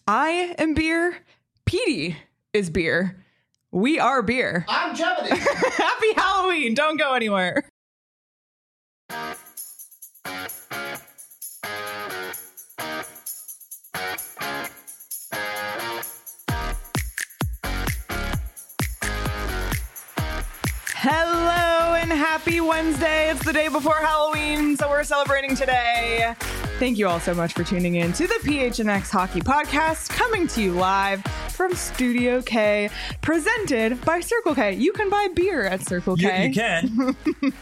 I am beer. Petey is beer. We are beer. I'm Jebediah. Happy Halloween. Don't go anywhere. Hello and happy Wednesday. It's the day before Halloween, so we're celebrating today. Thank you all so much for tuning in to the PHNX Hockey Podcast, coming to you live from Studio K, presented by Circle K. You can buy beer at Circle K. You can.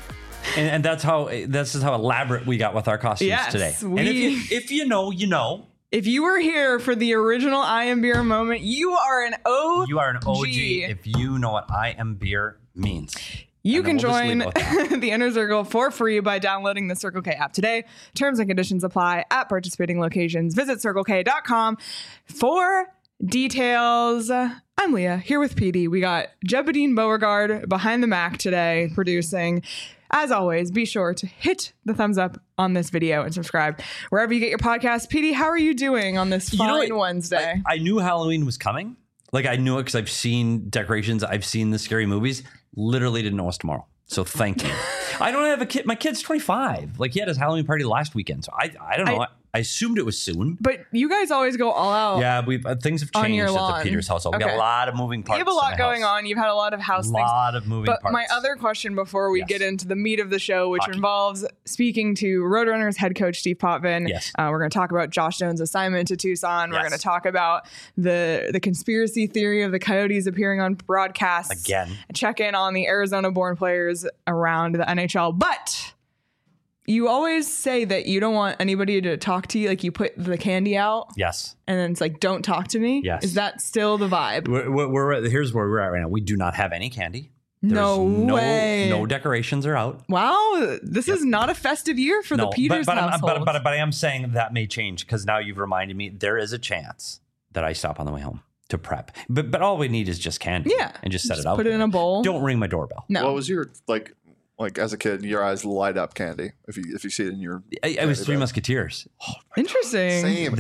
and this is how elaborate we got with our costumes today. And if you know, you know. If you were here for the original I Am Beer moment, you are an OG. You are an OG if you know what I Am Beer means. You can join the Inner Circle for free by downloading the Circle K app today. Terms and conditions apply at participating locations. Visit CircleK.com for details. I'm Leah, here with PD. We got Jebediah Beauregard behind the Mac today, producing. As always, be sure to hit the thumbs up on this video and subscribe wherever you get your podcast. PD, how are you doing on this fine Wednesday? I knew Halloween was coming. Like, I knew it because I've seen decorations. I've seen the scary movies. Literally didn't know it's tomorrow. So thank you. I don't have a kid. My kid's 25. Like, he had his Halloween party last weekend. So I don't know. I assumed it was soon. But you guys always go all out. Yeah, things have changed at the Peters household. We got a lot of moving parts. You have a lot going on. You've had a lot of house things. A lot of moving parts. But my other question before we get into the meat of the show, which involves speaking to Roadrunners head coach Steve Potvin. Yes. We're going to talk about Josh Jones' assignment to Tucson. We're going to talk about the conspiracy theory of the Coyotes appearing on broadcasts. Again. Check in on the Arizona-born players around the NHL. But you always say that you don't want anybody to talk to you. Like, you put the candy out. Yes. And then it's like, don't talk to me. Yes. Is that still the vibe? Here's where we're at right now. We do not have any candy. No way. No decorations are out. Wow. This is not a festive year for the Peters household. But I am saying that may change because now you've reminded me there is a chance that I stop on the way home to prep. But all we need is just candy. Yeah. And just set it out. Put it in a bowl. Don't ring my doorbell. No. What was your, like as a kid, your eyes light up candy if you see it in your... It was Three Musketeers. Oh, interesting. Same.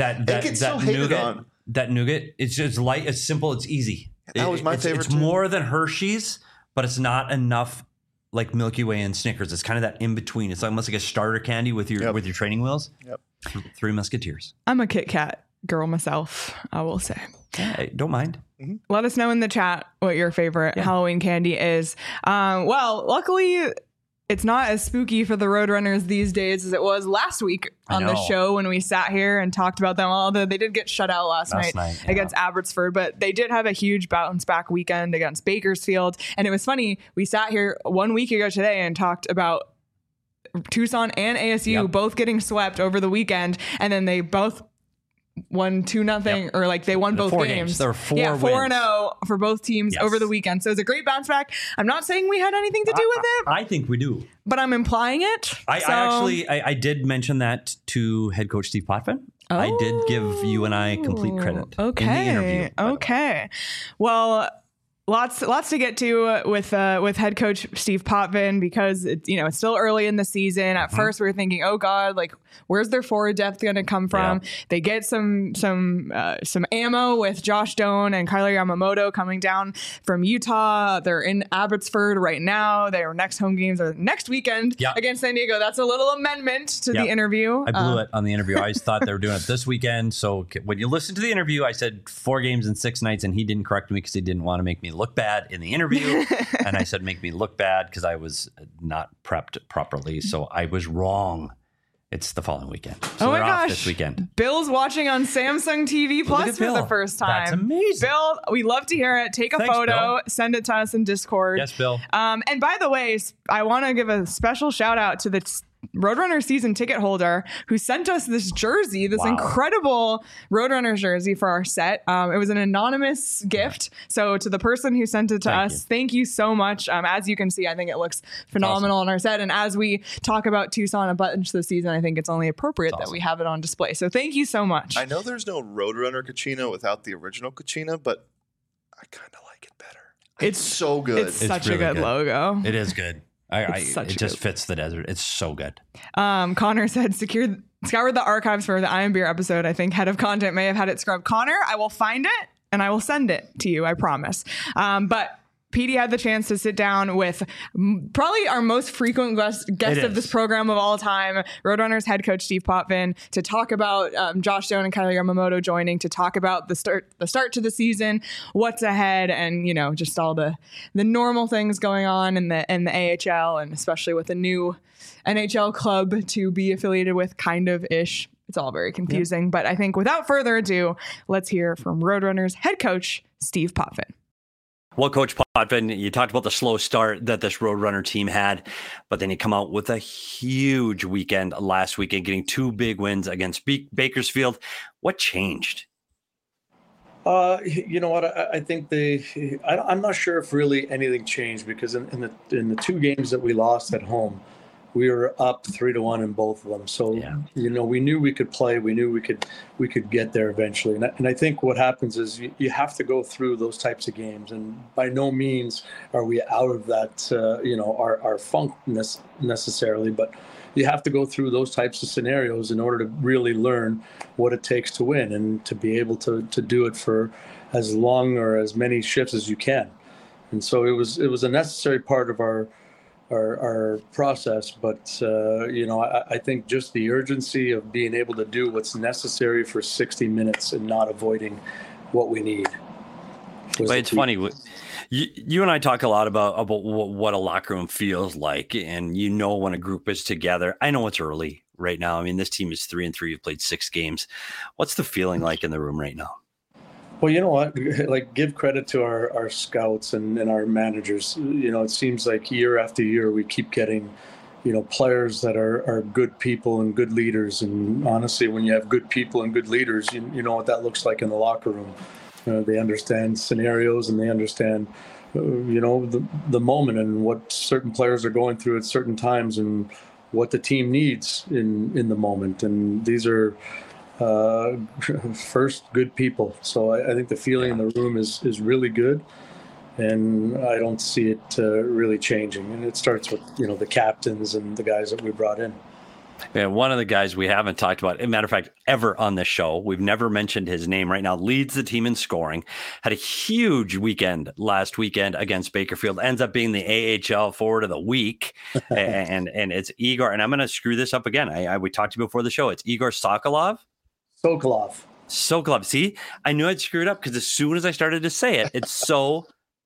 That nougat, it's just light, it's simple, it's easy. That was my favorite It's more than Hershey's, but it's not enough like Milky Way and Snickers. It's kind of that in between. It's almost like a starter candy with your training wheels. Yep. Three Musketeers. I'm a Kit Kat girl myself, I will say. I don't mind. Mm-hmm. Let us know in the chat what your favorite Halloween candy is. Well, luckily, it's not as spooky for the Roadrunners these days as it was last week on the show when we sat here and talked about them. Although they did get shut out last night against Abbotsford, but they did have a huge bounce back weekend against Bakersfield. And it was funny. We sat here 1 week ago today and talked about Tucson and ASU both getting swept over the weekend. And then they both won 2-0 or like they won both games. There were 4-0 for both teams over the weekend. So it's a great bounce back. I'm not saying we had anything to do with it. I think we do. But I'm implying it. I did mention that to head coach Steve Potvin. Oh. I did give you and I complete credit in the interview. Okay. Well, lots to get to with head coach Steve Potvin because it's still early in the season. At first we were thinking, oh God, like where's their forward depth going to come from? Yeah. They get some ammo with Josh Doan and Kyler Yamamoto coming down from Utah. They're in Abbotsford right now. Their next home games are next weekend against San Diego. That's a little amendment to the interview. I blew it on the interview. I always thought they were doing it this weekend. So when you listen to the interview, I said 4 games in 6 nights, and he didn't correct me because he didn't want to make me look bad in the interview. And I said, make me look bad because I was not prepped properly. So I was wrong. It's the following weekend. So oh my gosh. This weekend. Bill's watching on Samsung TV Plus for the first time. That's amazing. Bill, we love to hear it. Take a photo, Bill. Send it to us in Discord. Yes, Bill. And by the way, I want to give a special shout out to the Roadrunner season ticket holder who sent us this jersey, this incredible Roadrunner jersey for our set. It was an anonymous gift. So to the person who sent it to us, thank you so much. As you can see, I think it looks phenomenal on our set. And as we talk about Tucson a bunch this season, I think it's only appropriate that we have it on display. So thank you so much. I know there's no Roadrunner Kachina without the original Kachina, but I kind of like it better. It's so good. It's such really a good logo. It is good. It just fits the desert. It's so good. Connor said, secure scoured the archives for the Iron Beer episode. I think head of content may have had it scrubbed. Connor, I will find it and I will send it to you. I promise. But Petey had the chance to sit down with probably our most frequent guest of this program of all time, Roadrunners head coach Steve Potvin, to talk about Josh Doan and Kyler Yamamoto joining, to talk about the start to the season, what's ahead, and just all the normal things going on in the AHL, and especially with a new NHL club to be affiliated with, kind of ish. It's all very confusing, but I think without further ado, let's hear from Roadrunners head coach Steve Potvin. Well, Coach Potvin, you talked about the slow start that this Roadrunner team had, but then you come out with a huge weekend last weekend, getting 2 big wins against Bakersfield. What changed? You know what? I think I'm not sure if really anything changed, because in the 2 games that we lost at home, we were up 3-1 in both of them. So, we knew we could play. We knew we could get there eventually. And I think what happens is you have to go through those types of games. And by no means are we out of that, our funk necessarily. But you have to go through those types of scenarios in order to really learn what it takes to win, and to be able to do it for as long or as many shifts as you can. And so it was a necessary part of our process, but I think just the urgency of being able to do what's necessary for 60 minutes and not avoiding what we need. But it's funny, you and I talk a lot about what a locker room feels like, and when a group is together. I know it's early right now. I mean, this team is 3-3. You've played 6 games. What's the feeling like in the room right now? Well, you know what? Like, give credit to our scouts and our managers. It seems like year after year we keep getting, players that are good people and good leaders. And honestly, when you have good people and good leaders, you know what that looks like in the locker room. They understand scenarios, and they understand, the moment and what certain players are going through at certain times, and what the team needs in the moment. And these are first good people. So I think the feeling in the room is really good, and I don't see it really changing. And it starts with the captains and the guys that we brought in. Yeah, one of the guys we haven't talked about, as a matter of fact, ever on this show, we've never mentioned his name right now, leads the team in scoring, had a huge weekend last weekend against Bakersfield, ends up being the AHL forward of the week. and it's Igor, and I'm going to screw this up again. We talked to you before the show. It's Igor Sokolov. Sokolov. See, I knew I'd screw it up, because as soon as I started to say it, it's Sokolov.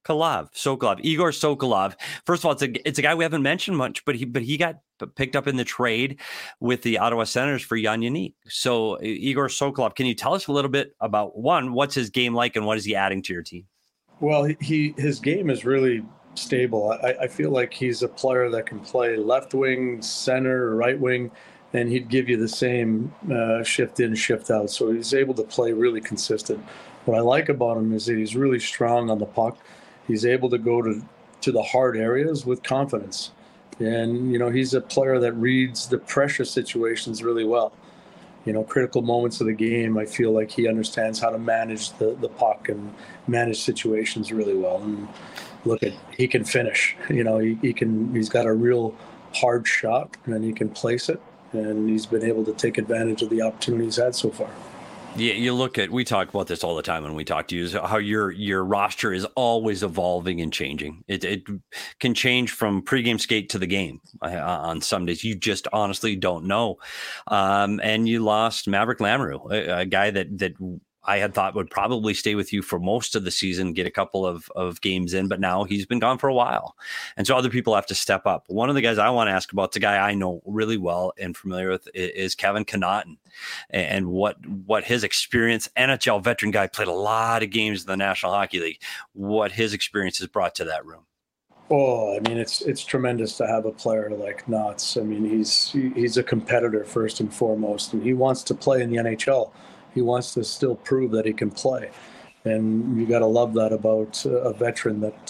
Igor Sokolov. First of all, it's a guy we haven't mentioned much, but he got picked up in the trade with the Ottawa Senators for Jan Jeník. So Igor Sokolov, can you tell us a little bit about, one, what's his game like, and what is he adding to your team? Well, his game is really stable. I feel like he's a player that can play left wing, center, right wing, and he'd give you the same shift in, shift out. So he's able to play really consistent. What I like about him is that he's really strong on the puck. He's able to go to the hard areas with confidence. And, he's a player that reads the pressure situations really well. Critical moments of the game, I feel like he understands how to manage the puck and manage situations really well. And he can finish. He's got a real hard shot, and he can place it. And he's been able to take advantage of the opportunities he's had so far. Yeah, we talk about this all the time when we talk to you, is how your roster is always evolving and changing. It can change from pregame skate to the game on some days. You just honestly don't know. And you lost Maverick Lamoureux, a guy that I had thought would probably stay with you for most of the season, get a couple of games in, but now he's been gone for a while. And so other people have to step up. One of the guys I want to ask about, the guy I know really well and familiar with, is Kevin Connauton, and what his experience, NHL veteran guy, played a lot of games in the National Hockey League, what his experience has brought to that room. Oh, I mean, it's tremendous to have a player like Knotts. I mean, he's a competitor first and foremost, and he wants to play in the NHL. He wants to still prove that he can play. And you got to love that about a veteran that,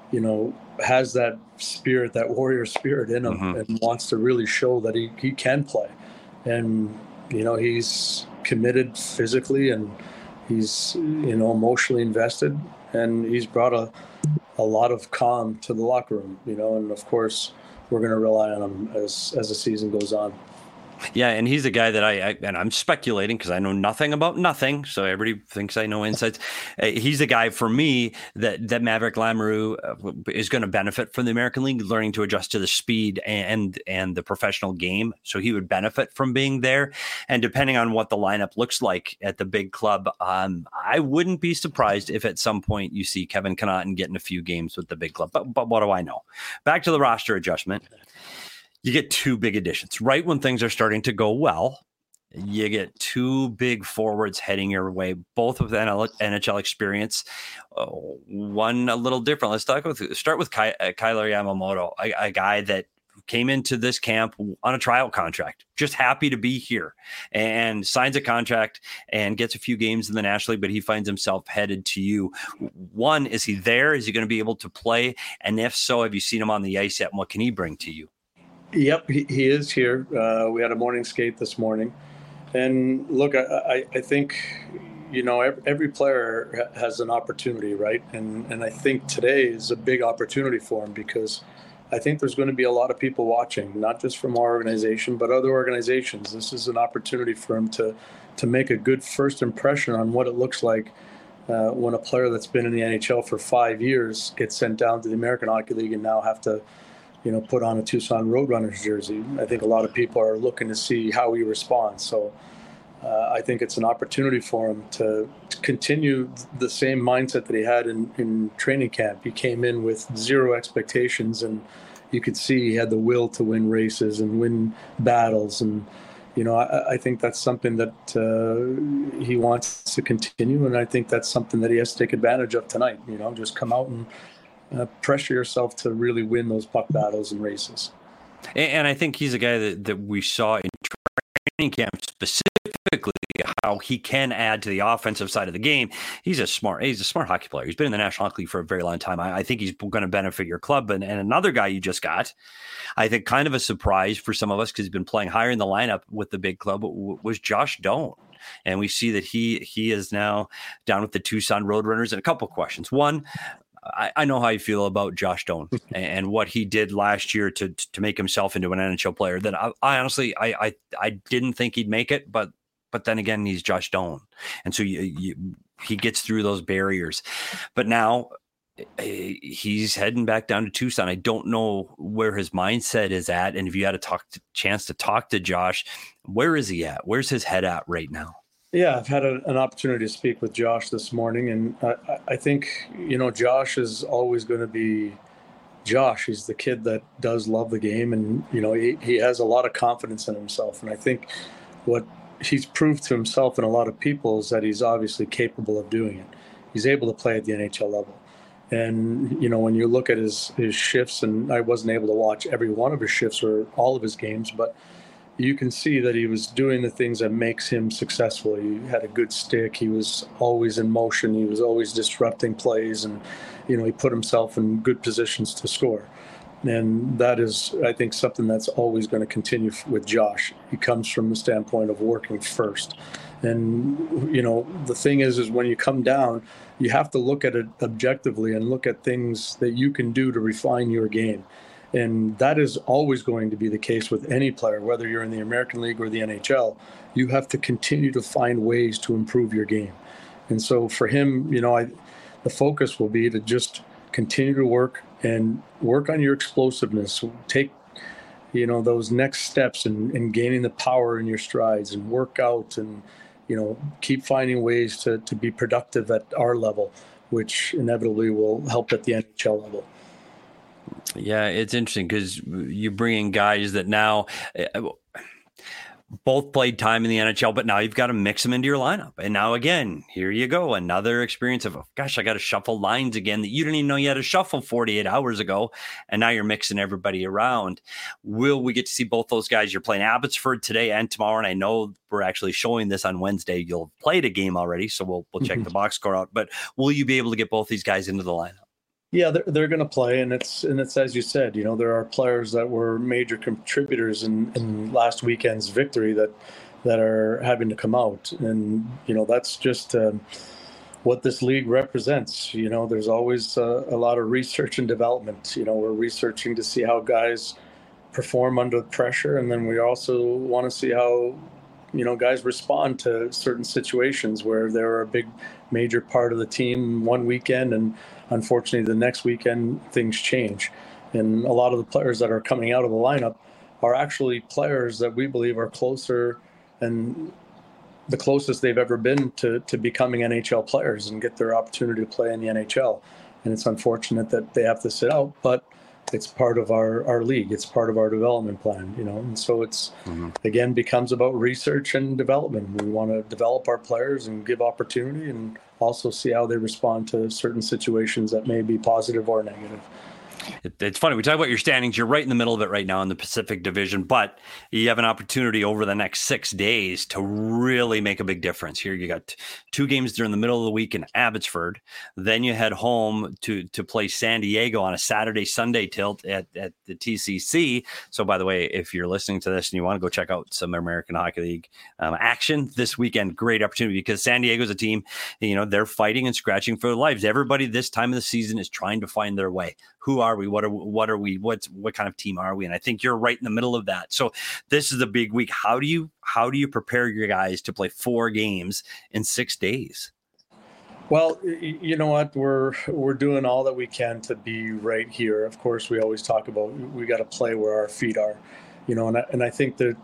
has that spirit, that warrior spirit in him, and wants to really show that he can play. And, he's committed physically, and he's, emotionally invested, and he's brought a lot of calm to the locker room, and of course we're going to rely on him as the season goes on. Yeah, and he's the guy that and I'm speculating because I know nothing about nothing, so everybody thinks I know insights. He's the guy for me that Maverick Lamoureux is going to benefit from the American League, learning to adjust to the speed and the professional game. So he would benefit from being there. And depending on what the lineup looks like at the big club, I wouldn't be surprised if at some point you see Kevin Connauton getting a few games with the big club. But what do I know? Back to the roster adjustment. You get two big additions right when things are starting to go well. You get two big forwards heading your way, both with NHL experience. One a little different. Let's start with Kailer Yamamoto, a guy that came into this camp on a trial contract, just happy to be here, and signs a contract and gets a few games in the National League, but he finds himself headed to you. One, is he there? Is he going to be able to play? And if so, have you seen him on the ice yet? And what can he bring to you? Yep, he is here. We had a morning skate this morning. And look, I think, every player has an opportunity, right? And I think today is a big opportunity for him because I think there's going to be a lot of people watching, not just from our organization, but other organizations. This is an opportunity for him to make a good first impression on what it looks like when a player that's been in the NHL for 5 years gets sent down to the American Hockey League and now have to put on a Tucson Roadrunners jersey. I think a lot of people are looking to see how he responds. So I think it's an opportunity for him to continue the same mindset that he had in training camp. He came in with zero expectations, and you could see he had the will to win races and win battles. And, I think that's something that he wants to continue. And I think that's something that he has to take advantage of tonight. Just come out and pressure yourself to really win those puck battles and races. And I think he's a guy that we saw in training camp specifically how he can add to the offensive side of the game. He's a smart hockey player. He's been in the National Hockey League for a very long time. I think he's going to benefit your club. And another guy you just got, I think kind of a surprise for some of us because he's been playing higher in the lineup with the big club, was Josh Doan. And we see that he is now down with the Tucson Roadrunners. And a couple of questions. One, I know how you feel about Josh Doan and what he did last year to make himself into an NHL player. That I honestly didn't think he'd make it, but then again, he's Josh Doan, and so he gets through those barriers. But now he's heading back down to Tucson. I don't know where his mindset is at, and if you had a chance to talk to Josh, where is he at? Where's his head at right now? Yeah, I've had an opportunity to speak with Josh this morning, and I think, Josh is always going to be Josh. He's the kid that does love the game, and, he has a lot of confidence in himself. And I think what he's proved to himself and a lot of people is that he's obviously capable of doing it. He's able to play at the NHL level. And, when you look at his shifts, and I wasn't able to watch every one of his shifts or all of his games, but you can see that he was doing the things that makes him successful. He had a good stick. He was always in motion. He was always disrupting plays, and he put himself in good positions to score. And that is, I think, something that's always going to continue with Josh. He comes from the standpoint of working first. And, the thing is when you come down, you have to look at it objectively and look at things that you can do to refine your game. And that is always going to be the case with any player, whether you're in the American League or the NHL. You have to continue to find ways to improve your game. And so for him, the focus will be to just continue to work on your explosiveness. Take, those next steps in gaining the power in your strides, and work out and, keep finding ways to be productive at our level, which inevitably will help at the NHL level. Yeah, it's interesting because you bring in guys that now both played time in the NHL, but now you've got to mix them into your lineup. And now again, here you go, another experience of, gosh, I got to shuffle lines again that you didn't even know you had to shuffle 48 hours ago. And now you're mixing everybody around. Will we get to see both those guys? You're playing Abbotsford today and tomorrow. And I know we're actually showing this on Wednesday. You'll have played a game already, so we'll check the box score out. But will you be able to get both these guys into the lineup? Yeah, they're going to play, and it's as you said, there are players that were major contributors in last weekend's victory that are having to come out, and that's just what this league represents. There's always a lot of research and development. We're researching to see how guys perform under pressure, and then we also want to see how guys respond to certain situations where they're a big major part of the team one weekend, and unfortunately the next weekend things change. And a lot of the players that are coming out of the lineup are actually players that we believe are closer and the closest they've ever been to becoming NHL players and get their opportunity to play in the NHL. And it's unfortunate that they have to sit out, but it's part of our league. It's part of our development plan, and so it's, again, becomes about research and development. We want to develop our players and give opportunity and also see how they respond to certain situations that may be positive or negative. It's funny. We talk about your standings. You're right in the middle of it right now in the Pacific Division, but you have an opportunity over the next 6 days to really make a big difference. Here you got 2 games during the middle of the week in Abbotsford. Then you head home to play San Diego on a Saturday-Sunday tilt at the TCC. So, by the way, if you're listening to this and you want to go check out some American Hockey League action this weekend, great opportunity because San Diego's a team, they're fighting and scratching for their lives. Everybody this time of the season is trying to find their way. Who are we? What are we? What kind of team are we? And I think you're right in the middle of that. So this is a big week. How do you prepare your guys to play 4 games in 6 days? Well, you know what? We're doing all that we can to be right here. Of course, we always talk about we got to play where our feet are, and I think that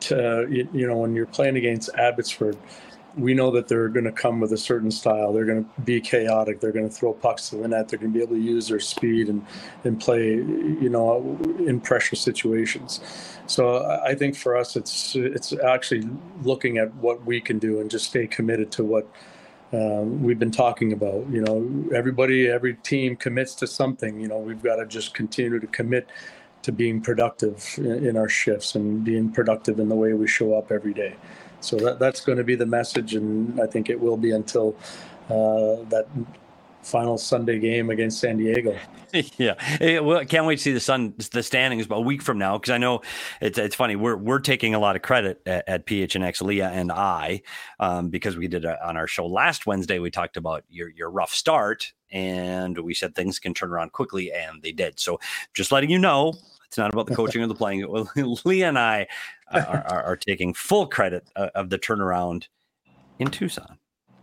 when you're playing against Abbotsford, we know that they're going to come with a certain style. They're going to be chaotic. They're going to throw pucks to the net. They're going to be able to use their speed and play, in pressure situations. So I think for us, it's actually looking at what we can do and just stay committed to what we've been talking about. Every team commits to something. We've got to just continue to commit to being productive in our shifts and being productive in the way we show up every day. So that's going to be the message, and I think it will be until that final Sunday game against San Diego. Yeah, well, can't wait to see the standings a week from now, because I know it's funny. We're taking a lot of credit at PHNX, Leah and I, because we did on our show last Wednesday. We talked about your rough start, and we said things can turn around quickly, and they did. So just letting you know. It's not about the coaching or the playing. Well, Leah and I are taking full credit of the turnaround in Tucson.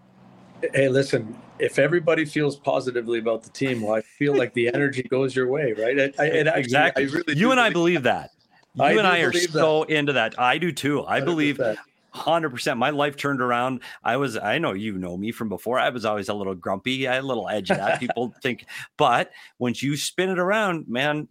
Hey, listen, if everybody feels positively about the team, well, I feel like the energy goes your way, right? Exactly. I really you and I believe that. You and I are so into that. I do too. I 100%. Believe 100%. My life turned around. I know you know me from before. I was always a little grumpy. I had a little edge of that. People think, but once you spin it around, man,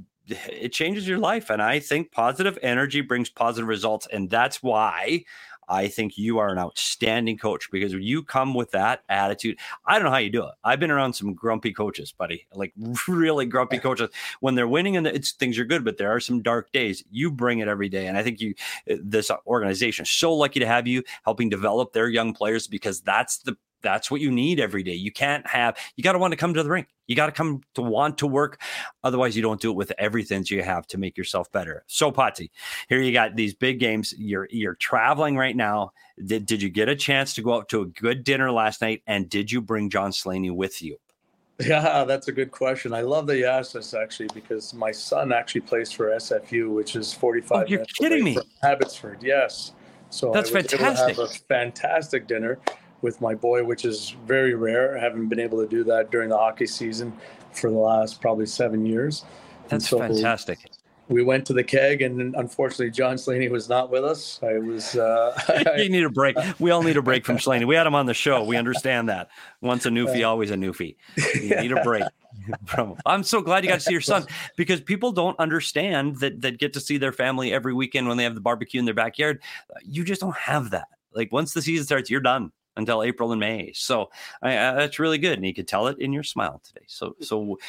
it changes your life. And I think positive energy brings positive results. And that's why I think you are an outstanding coach, because when you come with that attitude, I don't know how you do it. I've been around some grumpy coaches, buddy, like really grumpy coaches. When they're winning and things are good, but there are some dark days. You bring it every day. And I think this organization is so lucky to have you helping develop their young players, because that's what you need every day. You got to want to come to the rink. You got to come to want to work. Otherwise, you don't do it with everything that you have to make yourself better. So, Potsy, here you got these big games. You're traveling right now. Did you get a chance to go out to a good dinner last night? And did you bring John Slaney with you? Yeah, that's a good question. I love that you asked this, actually, because my son actually plays for SFU, which is 45 you're minutes kidding me. from Abbotsford. Yes. So that's fantastic. Able to have a fantastic dinner with my boy, which is very rare. I haven't been able to do that during the hockey season for the last probably 7 years. That's fantastic. We went to the keg, and unfortunately, John Slaney was not with us. You need a break. We all need a break from Slaney. We had him on the show. We understand that. Once a newfie, always a newfie. You need a break. I'm so glad you got to see your son, because people don't understand that get to see their family every weekend when they have the barbecue in their backyard. You just don't have that. Like, once the season starts, you're done until April and May. So that's really good. And you could tell it in your smile today. So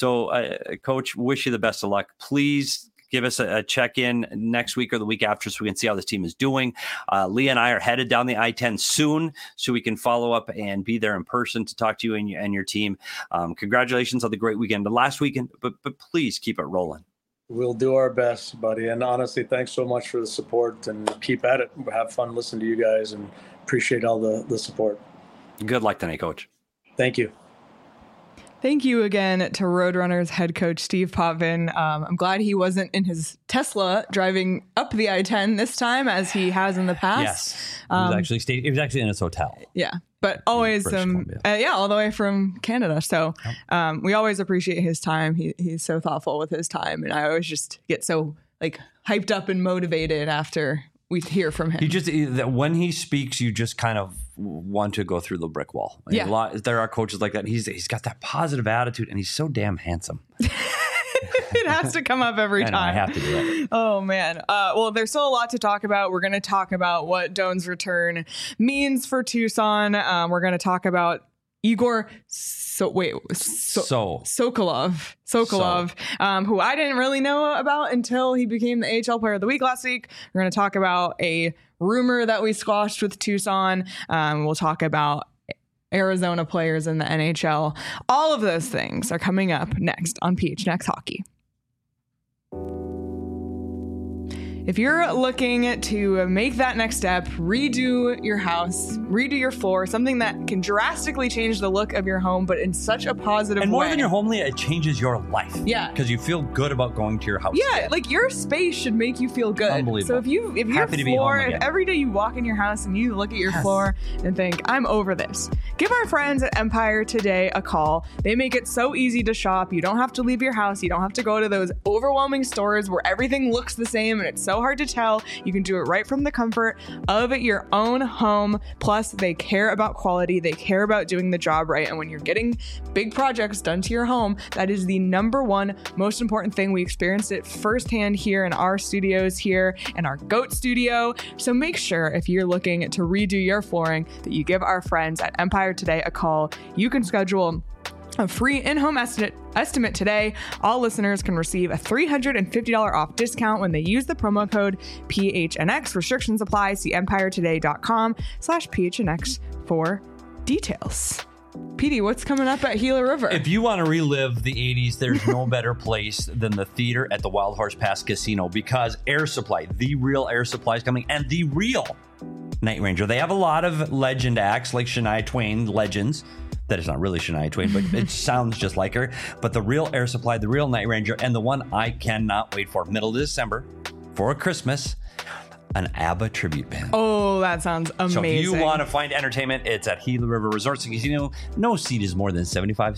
Coach, wish you the best of luck. Please give us a check-in next week or the week after so we can see how this team is doing. Leah and I are headed down the I-10 soon so we can follow up and be there in person to talk to you and your team. Congratulations on the great weekend last weekend, but please keep it rolling. We'll do our best, buddy. And honestly, thanks so much for the support, and keep at it. Have fun listening to you guys, and appreciate all the support. Good luck tonight, Coach. Thank you. Thank you again to Roadrunners head coach Steve Potvin. I'm glad he wasn't in his Tesla driving up the I-10 this time as he has in the past. Yes, he was actually in his hotel. Yeah, but always all the way from Canada. So we always appreciate his time. He's so thoughtful with his time, and I always just get so like hyped up and motivated after we hear from him. When he speaks, you just kind of want to go through the brick wall. There are coaches like that. He's got that positive attitude, and he's so damn handsome. It has to come up every time. I have to do it. Oh, man. Well, there's still a lot to talk about. We're going to talk about what Doan's return means for Tucson. We're going to talk about Igor Sokolov, who I didn't really know about until he became the AHL Player of the Week last week. We're going to talk about a rumor that we squashed with Tucson. We'll talk about Arizona players in the NHL. All of those things are coming up next on PHNX Hockey. If you're looking to make that next step, redo your house, redo your floor, something that can drastically change the look of your home, but in such a positive way. And more than your home, Leah, it changes your life. Yeah. Because you feel good about going to your house. Yeah, again. Like your space should make you feel good. Unbelievable. So if your floor, if every day you walk in your house and you look at your floor and think, I'm over this, give our friends at Empire Today a call. They make it so easy to shop. You don't have to leave your house. You don't have to go to those overwhelming stores where everything looks the same and it's so hard to tell. You can do it right from the comfort of your own home. Plus, they care about quality. They care about doing the job right. And when you're getting big projects done to your home, that is the number one most important thing. We experienced it firsthand here in our studios here in our GOAT studio. So make sure if you're looking to redo your flooring that you give our friends at Empire Today a call. You can schedule a free in-home estimate today. All listeners can receive a $350 off discount when they use the promo code PHNX. Restrictions apply. See empiretoday.com/PHNX for details. PD, what's coming up at Gila River? If you want to relive the 80s, there's no better place than the theater at the Wild Horse Pass Casino, because Air Supply, the real Air Supply, is coming, and the real Night Ranger. They have a lot of legend acts like Shania Twain, legends. That is not really Shania Twain, but it sounds just like her. But the real Air Supply, the real Night Ranger, and the one I cannot wait for, middle of December, for Christmas, an ABBA tribute band. Oh, that sounds amazing. So if you want to find entertainment, it's at Gila River Resorts and Casino. No seat is more than 75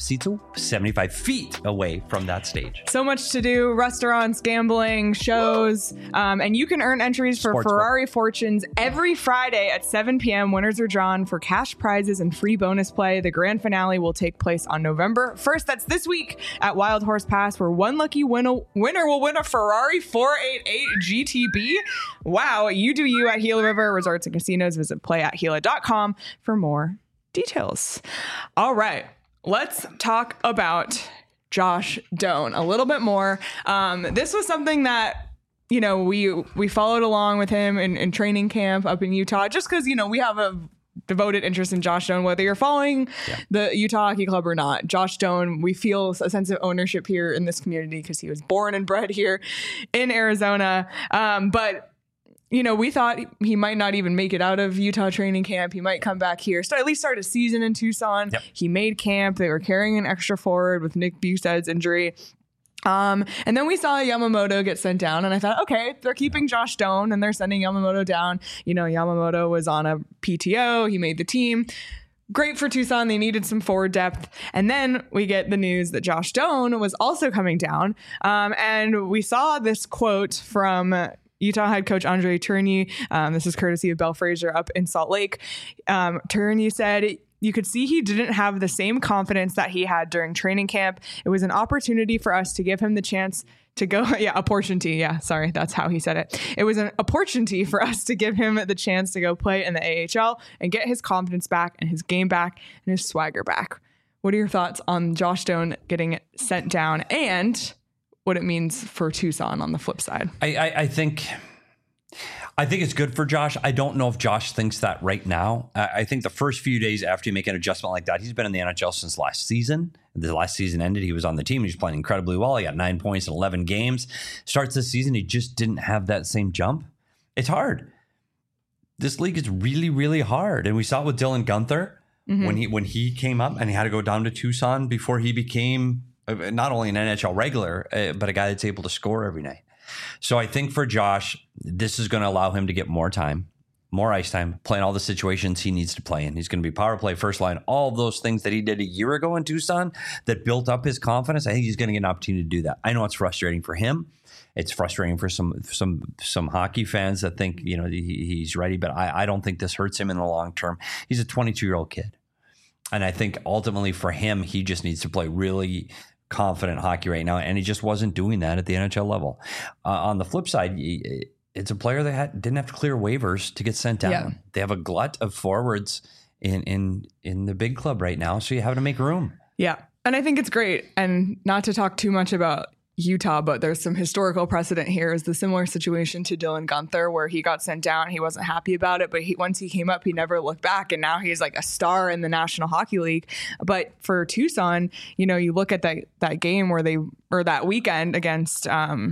feet away from that stage. So much to do. Restaurants, gambling, shows. And you can earn entries for Ferrari Fortunes every Friday at 7 p.m. Winners are drawn for cash prizes and free bonus play. The grand finale will take place on November 1st. That's this week at Wild Horse Pass, where one lucky winner will win a Ferrari 488 GTB. Wow. You do you at Gila River Resorts and Casinos. Visit playathgila.com for more details. All right, let's talk about Josh Doan a little bit more. This was something that, you know, we followed along with him in training camp up in Utah, just because, you know, we have a devoted interest in Josh Doan, whether you're following the Utah Hockey Club or not. Josh Doan, we feel a sense of ownership here in this community because he was born and bred here in Arizona. But you know, we thought he might not even make it out of Utah training camp. He might come back here, at least start a season in Tucson. Yep. He made camp. They were carrying an extra forward with Nick Bustad's injury. And then we saw Yamamoto get sent down, and I thought, okay, they're keeping Josh Doan and they're sending Yamamoto down. You know, Yamamoto was on a PTO. He made the team. Great for Tucson. They needed some forward depth. And then we get the news that Josh Doan was also coming down. And we saw this quote from Utah head coach Andre Tourigny. This is courtesy of Bell Fraser up in Salt Lake. Tourigny said, you could see he didn't have the same confidence that he had during training camp. It was an opportunity for us to give him the chance to go. Opportunity. Yeah, sorry. That's how he said it. It was an opportunity for us to give him the chance to go play in the AHL and get his confidence back and his game back and his swagger back. What are your thoughts on Josh Doan getting sent down and what it means for Tucson on the flip side? I think it's good for Josh. I don't know if Josh thinks that right now. I think the first few days after you make an adjustment like that, he's been in the NHL since last season. The last season ended, he was on the team. He was playing incredibly well. He got 9 points in 11 games. Starts this season, he just didn't have that same jump. It's hard. This league is really, really hard. And we saw it with Dylan Guenther. when he came up and he had to go down to Tucson before he became not only an NHL regular, but a guy that's able to score every night. So I think for Josh, this is going to allow him to get more time, more ice time, playing all the situations he needs to play in. He's going to be power play, first line, all of those things that he did a year ago in Tucson that built up his confidence. I think he's going to get an opportunity to do that. I know it's frustrating for him. It's frustrating for some hockey fans that think, he's ready, but I don't think this hurts him in the long term. He's a 22-year-old kid. And I think ultimately for him, he just needs to play really confident hockey right now. And he just wasn't doing that at the NHL level. On the flip side, it's a player that didn't have to clear waivers to get sent down. Yeah. They have a glut of forwards in the big club right now. So you have to make room. Yeah. And I think it's great. And not to talk too much about Utah, but there's some historical precedent here. Is the similar situation to Dylan Guenther, where he got sent down. He wasn't happy about it, but once he came up, he never looked back. And now he's like a star in the National Hockey League. But for Tucson, you look at that game that weekend against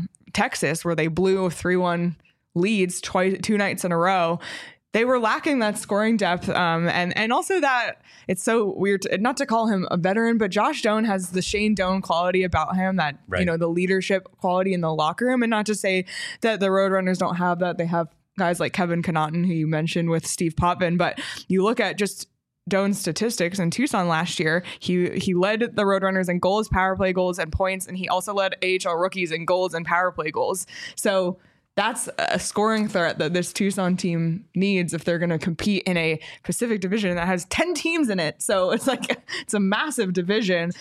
Texas, where they blew 3-1 leads 2 nights in a row. They were lacking that scoring depth, and also that it's so weird not to call him a veteran, but Josh Doan has the Shane Doan quality about him, that right. The leadership quality in the locker room, and not to say that the Roadrunners don't have that. They have guys like Kevin Connaughton, who you mentioned, with Steve Potvin, but you look at just Doan's statistics in Tucson last year. He led the Roadrunners in goals, power play goals, and points, and he also led AHL rookies in goals and power play goals. So that's a scoring threat that this Tucson team needs if they're going to compete in a Pacific Division that has 10 teams in it. So it's a massive division.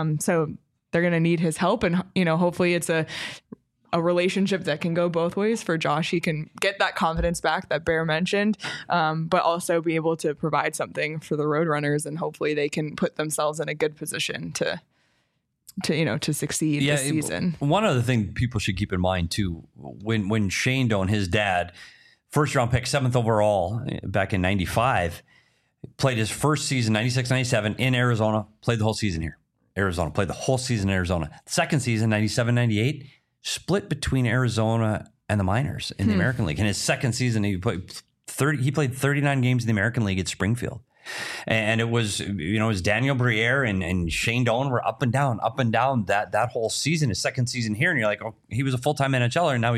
So they're going to need his help, and hopefully it's a relationship that can go both ways for Josh. He can get that confidence back that Bear mentioned, but also be able to provide something for the Roadrunners, and hopefully they can put themselves in a good position to succeed this season. One other thing people should keep in mind too, when Shane Doan, his dad, first round pick, 7th overall back in 95, played his first season, 96-97 in Arizona, played the whole season here. Arizona, played the whole season in Arizona. Second season, 97-98, split between Arizona and the minors in the American League. In his second season, he played 39 games in the American League at Springfield. And it was, Daniel Briere and Shane Doan were up and down that whole season, his second season here. And you're like, oh, he was a full-time NHLer. And now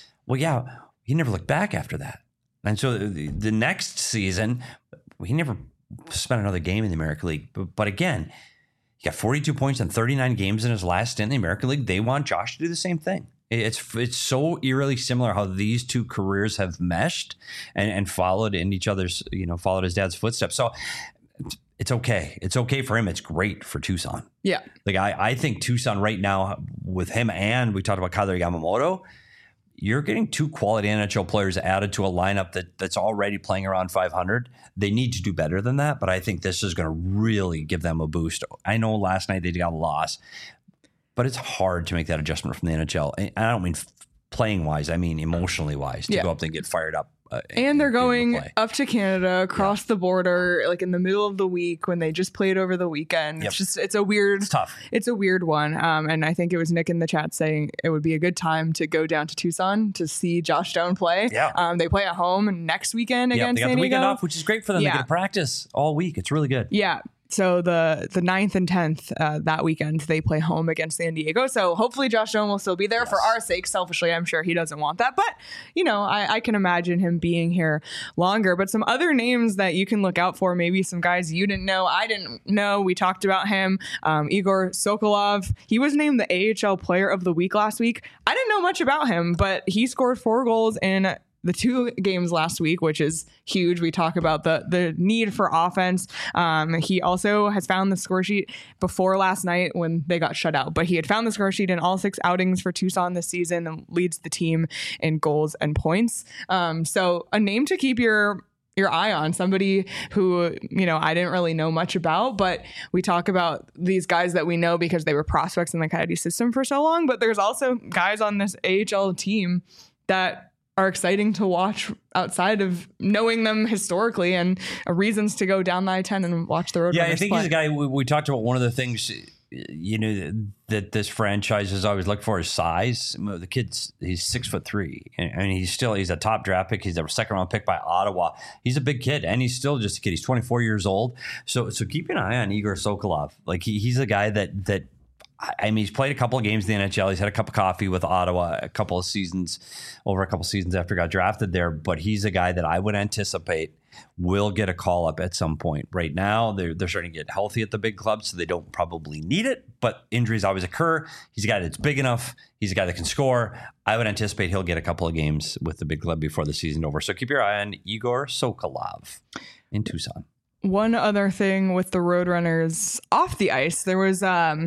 he never looked back after that. And so the next season, he never spent another game in the American League. But again, he got 42 points in 39 games in his last stint in the American League. They want Josh to do the same thing. It's so eerily similar how these two careers have meshed and followed in each other's, followed his dad's footsteps. So it's okay. It's okay for him. It's great for Tucson. Yeah. I think Tucson right now with him, and we talked about Kailer Yamamoto, you're getting 2 quality NHL players added to a lineup that's already playing around 500. They need to do better than that, but I think this is going to really give them a boost. I know last night they got a loss, but it's hard to make that adjustment from the NHL. And I don't mean playing wise. I mean emotionally wise to go up there and get fired up. And they're going up to Canada, across the border, like in the middle of the week when they just played over the weekend. Yep. It's tough. It's a weird one. And I think it was Nick in the chat saying it would be a good time to go down to Tucson to see Josh Doan play. Yeah. They play at home next weekend against San Diego. They got the weekend off, which is great for them. They get to practice all week. It's really good. Yeah. So the 9th and 10th that weekend, they play home against San Diego. So hopefully Josh Doan will still be there for our sake. Selfishly, I'm sure he doesn't want that. But, I can imagine him being here longer. But some other names that you can look out for, maybe some guys you didn't know, I didn't know. We talked about him. Igor Sokolov. He was named the AHL Player of the Week last week. I didn't know much about him, but he scored 4 goals in the 2 games last week, which is huge. We talk about the need for offense. He also has found the score sheet before last night when they got shut out, but he had found the score sheet in all 6 outings for Tucson this season and leads the team in goals and points. So a name to keep your eye on, somebody who, I didn't really know much about, but we talk about these guys that we know because they were prospects in the Coyote system for so long, but there's also guys on this AHL team that are exciting to watch outside of knowing them historically and reasons to go down the I-10 and watch the Roadrunners play. Yeah, I think he's a guy we talked about. One of the things that this franchise has always looked for is size. The kid's he's 6'3", and he's a top draft pick. He's a second round pick by Ottawa. He's a big kid, and he's still just a kid. He's 24 years old. So keep an eye on Igor Sokolov. Like he's a guy that he's played a couple of games in the NHL. He's had a cup of coffee with Ottawa over a couple of seasons after he got drafted there. But he's a guy that I would anticipate will get a call up at some point. Right now, they're starting to get healthy at the big club, so they don't probably need it. But injuries always occur. He's a guy that's big enough. He's a guy that can score. I would anticipate he'll get a couple of games with the big club before the season's over. So keep your eye on Igor Sokolov in Tucson. One other thing with the Roadrunners off the ice, there was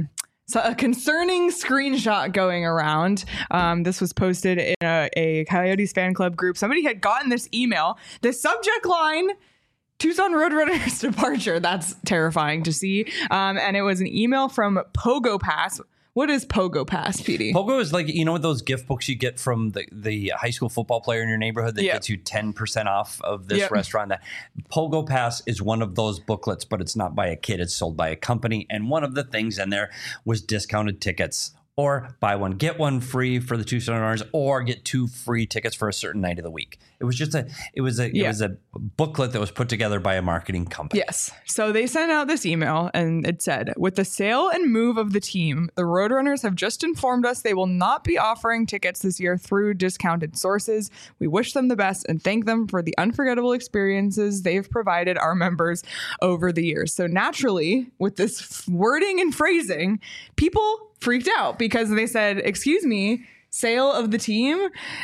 so a concerning screenshot going around. This was posted in a Coyotes fan club group. Somebody had gotten this email. The subject line, Tucson Roadrunners departure. That's terrifying to see. And it was an email from Pogo Pass. What is Pogo Pass, PD? Pogo is like, what those gift books you get from the high school football player in your neighborhood that gets you 10% off of this restaurant. That Pogo Pass is one of those booklets, but it's not by a kid. It's sold by a company. And one of the things in there was discounted tickets, or buy one, get one free for the Tucson Roadrunners, or get 2 free tickets for a certain night of the week. It was just it was a booklet that was put together by a marketing company. Yes. So they sent out this email and it said, with the sale and move of the team, the Roadrunners have just informed us they will not be offering tickets this year through discounted sources. We wish them the best and thank them for the unforgettable experiences they've provided our members over the years. So naturally, with this wording and phrasing, people freaked out because they said, excuse me, sale of the team?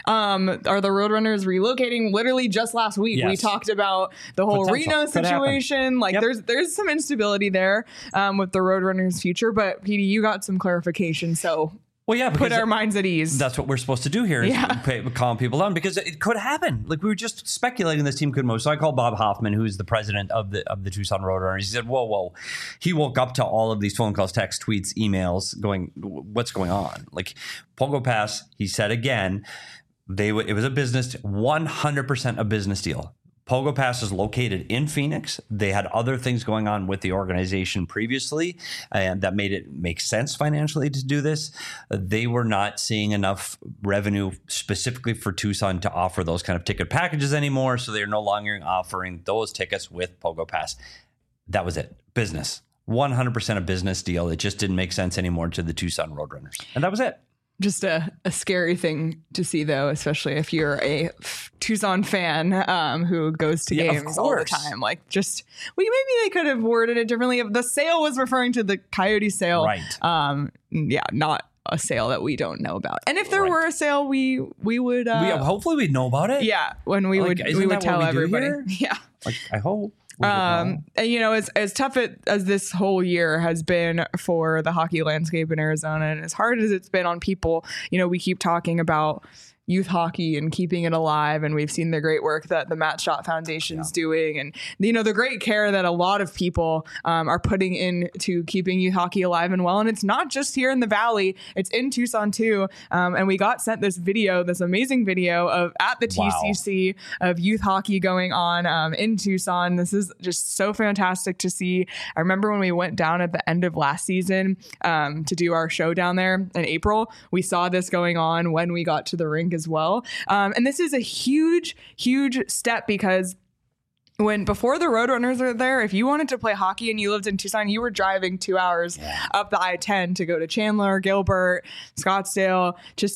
Are the Roadrunners relocating? Literally just last week, we talked about the whole Reno situation. Like there's some instability there with the Roadrunners' future. But PD, you got some clarification. So put our minds at ease. That's what we're supposed to do here is calm people down, because it could happen. Like we were just speculating this team could move. So I called Bob Hoffman, who's the president of the Tucson Roadrunners. He said, whoa. He woke up to all of these phone calls, texts, tweets, emails going, what's going on? Like Pogo Pass, he said again, it was a business, 100% a business deal. Pogo Pass is located in Phoenix. They had other things going on with the organization previously, and that made it make sense financially to do this. They were not seeing enough revenue specifically for Tucson to offer those kind of ticket packages anymore, so they're no longer offering those tickets with Pogo Pass. That was it. Business. 100% a business deal. It just didn't make sense anymore to the Tucson Roadrunners. And that was it. Just a scary thing to see, though, especially if you're a Tucson fan who goes to games all the time. Like, maybe they could have worded it differently. If the sale was referring to the Coyote sale, right? Not a sale that we don't know about. And if there were a sale, we would. Hopefully, we'd know about it. Yeah, when we would tell everybody. Yeah, like I hope. And as tough as this whole year has been for the hockey landscape in Arizona, and as hard as it's been on people, we keep talking about youth hockey and keeping it alive, and we've seen the great work that the Matt Stott Foundation's doing, and the great care that a lot of people are putting into keeping youth hockey alive and well. And it's not just here in the Valley, it's in Tucson too. And we got sent this amazing video of at the TCC of youth hockey going on in Tucson. This is just so fantastic to see. I remember when we went down at the end of last season to do our show down there in April, we saw this going on when we got to the rink as well. And this is a huge, huge step, because before the Roadrunners are there, if you wanted to play hockey and you lived in Tucson, you were driving 2 hours up the I-10 to go to Chandler, Gilbert, Scottsdale to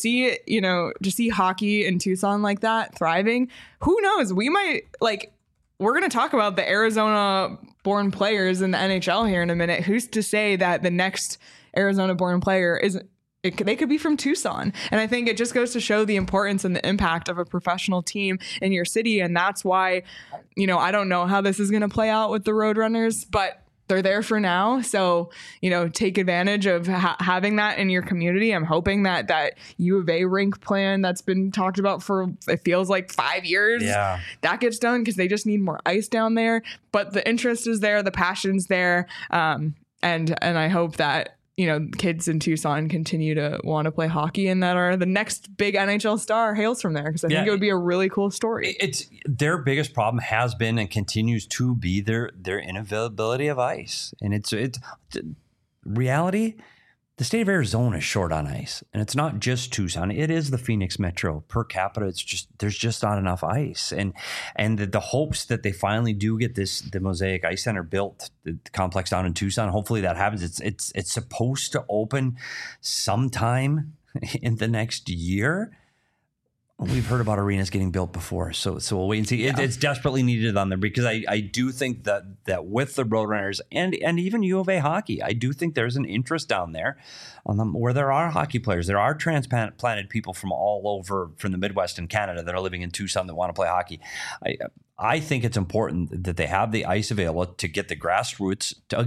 see hockey in Tucson like that thriving. Who knows? We might we're going to talk about the Arizona born players in the NHL here in a minute. Who's to say that the next Arizona born player they could be from Tucson. And I think it just goes to show the importance and the impact of a professional team in your city. And that's why, I don't know how this is going to play out with the Roadrunners, but they're there for now. So, take advantage of having that in your community. I'm hoping that U of A rink plan that's been talked about for, it feels like 5 years, that gets done, because they just need more ice down there. But the interest is there, the passion's there. And I hope that, kids in Tucson continue to want to play hockey, and that the next big NHL star hails from there, because I think it would be a really cool story. It's their biggest problem has been and continues to be their inavailability of ice. And it's reality, the state of Arizona is short on ice, and it's not just Tucson. It is the Phoenix Metro. Per capita, there's just not enough ice, and the hopes that they finally do get the Mosaic Ice Center built, the complex down in Tucson. Hopefully that happens. It's supposed to open sometime in the next year. We've heard about arenas getting built before, so we'll wait and see. It's desperately needed on there because I do think that with the Roadrunners and even U of A hockey, I do think there's an interest down there on them where there are hockey players. There are transplanted people from all over, from the Midwest and Canada that are living in Tucson that want to play hockey. I think it's important that they have the ice available to get the grassroots to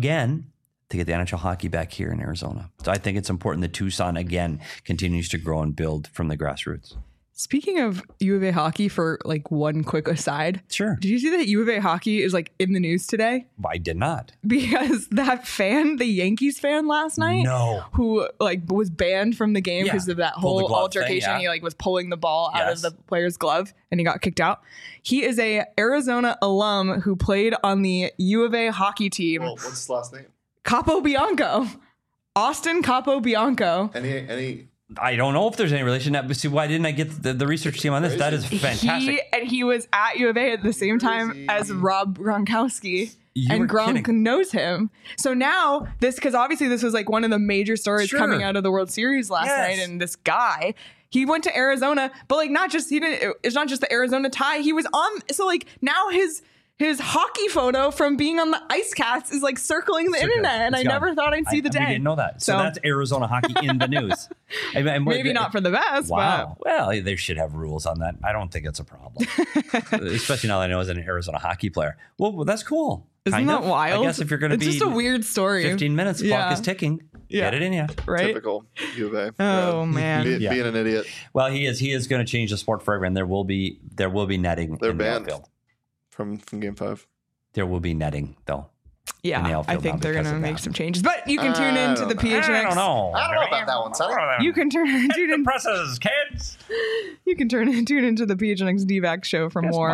get the NHL hockey back here in Arizona. So I think it's important that Tucson, again, continues to grow and build from the grassroots. Speaking of U of A hockey, for like one quick aside. Sure. Did you see that U of A hockey is like in the news today? I did not. Because that fan, the Yankees fan last night, who like was banned from the game because of that whole altercation. He like was pulling the ball out of the player's glove and he got kicked out. He is a Arizona alum who played on the U of A hockey team. Well, what's his last name? Capobianco. Austin Capobianco. Any I don't know if there's any relation. See, why didn't I get the research team on this? That is fantastic. He was at U of A at the same time as Rob Gronkowski. And Gronk knows him. So now because obviously this was like one of the major stories coming out of the World Series last night. And this guy, he went to Arizona, but like it's not just the Arizona tie. He was on. So like now his hockey photo from being on the Ice Cats is like circling the internet, and I never thought I'd see the day. We didn't know that. So that's Arizona hockey in the news. Maybe not for the best. Wow. But. Well, they should have rules on that. I don't think it's a problem, especially now that I know as an Arizona hockey player. Well, that's cool. Isn't that wild? I guess if you're going to be, it's just a weird story. 15 minutes, clock is ticking. Get it in you. Right? Typical U of A. Oh man, being an idiot. Well, he is going to change the sport for everyone. There will be netting. They're banned from Game 5. There will be netting, though. Yeah, I think they're going to make some changes. But you can tune into the PHNX. I don't know about that one, Sonny. You can tune in. The presses, kids. You can tune into the PHNX DVAC show for more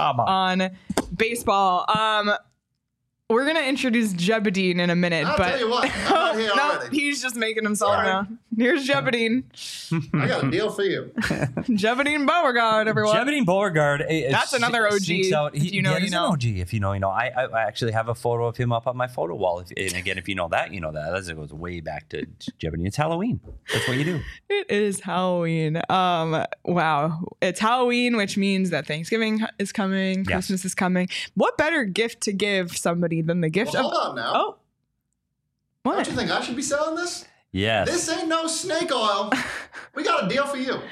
on baseball. We're going to introduce Jebedine in a minute. I'll tell you what. I'm not here already. He's just making himself now. Here's Jebedine. I got a deal for you. Jebedine Beauregard, everyone. Jebedine Beauregard. That's another OG. If you know, you know. OG. If you know, you know. I actually have a photo of him up on my photo wall. And again, if you know that, you know that. That goes way back to Jebedine. It's Halloween. That's what you do. It is Halloween. Wow. It's Halloween, which means that Thanksgiving is coming. Christmas is coming. What better gift to give somebody than the gift of... Hold on now. Oh. What? Don't you think I should be selling this? Yes. This ain't no snake oil. We got a deal for you.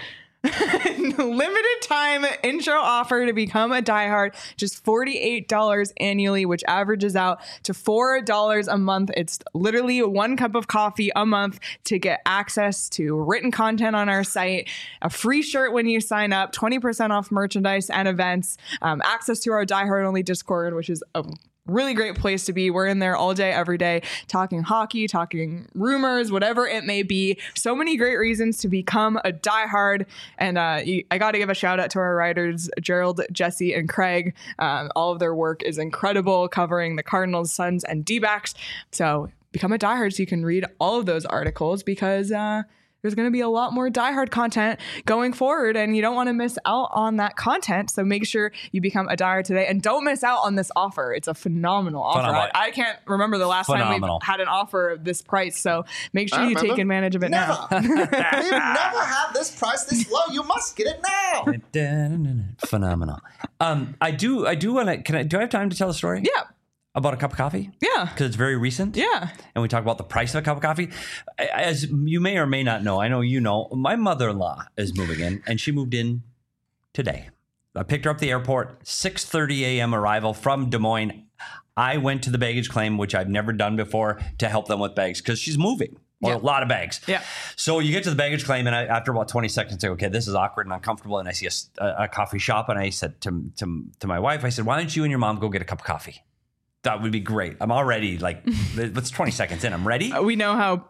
Limited time intro offer to become a diehard, just $48 annually, which averages out to $4 a month. It's literally 1 cup of coffee a month to get access to written content on our site, a free shirt when you sign up, 20% off merchandise and events, access to our diehard only Discord, which is a really great place to be. We're in there all day, every day, talking hockey, talking rumors, whatever it may be. So many great reasons to become a diehard. And I got to give a shout out to our writers, Gerald, Jesse, and Craig. All of their work is incredible, covering the Cardinals, Suns, and D-backs. So become a diehard so you can read all of those articles, because there's going to be a lot more diehard content going forward, and you don't want to miss out on that content. So make sure you become a diehard today, and don't miss out on this offer. It's a phenomenal offer. I can't remember the last time we've had an offer of this price. So make sure you take advantage of it now. We've never had this price this low. You must get it now. Phenomenal. I do want to. Do I have time to tell a story? Yeah. About a cup of coffee? Yeah. Because it's very recent. Yeah. And we talk about the price of a cup of coffee. As you may or may not know, I know you know, my mother-in-law is moving in, and she moved in today. I picked her up at the airport, 6:30 a.m. arrival from Des Moines. I went to the baggage claim, which I've never done before, to help them with bags, because she's moving. Or a lot of bags. Yeah. So you get to the baggage claim, and after about 20 seconds, I say, okay, this is awkward and uncomfortable. And I see a coffee shop, and I said to my wife, I said, why don't you and your mom go get a cup of coffee? That would be great. I'm already like, it's 20 seconds in. I'm ready. We know how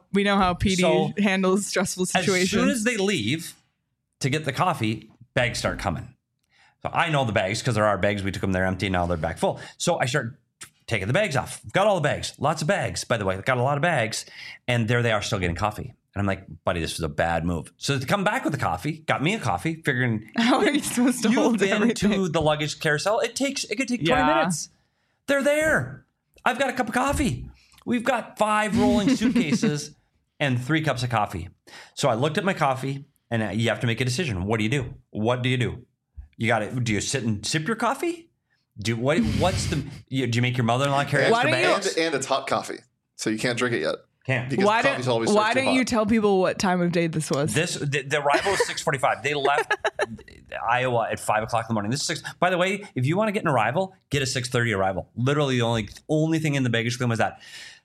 PD handles stressful situations. As soon as they leave to get the coffee, bags start coming. So I know the bags because there are bags. We took them there empty. Now they're back full. So I start taking the bags off. Got all the bags. Lots of bags, by the way. Got a lot of bags. And there they are still getting coffee. And I'm like, buddy, this was a bad move. So to come back with the coffee, got me a coffee, figuring how are you supposed to hold everything? To the luggage carousel. It could take 20 minutes. They're there. I've got a cup of coffee. We've got 5 rolling suitcases and 3 cups of coffee. So I looked at my coffee, and you have to make a decision. What do you do? What do you do? Do you sit and sip your coffee? Do you make your mother-in-law carry extra bags? And it's hot coffee, so you can't drink it yet. Can't. Because coffee's always why don't you tell people what time of day this was? The arrival was 6:45. They left Iowa at 5 o'clock in the morning. This is 6. By the way, if you want to get an arrival, get a 6:30 arrival. Literally, the only thing in the baggage claim was that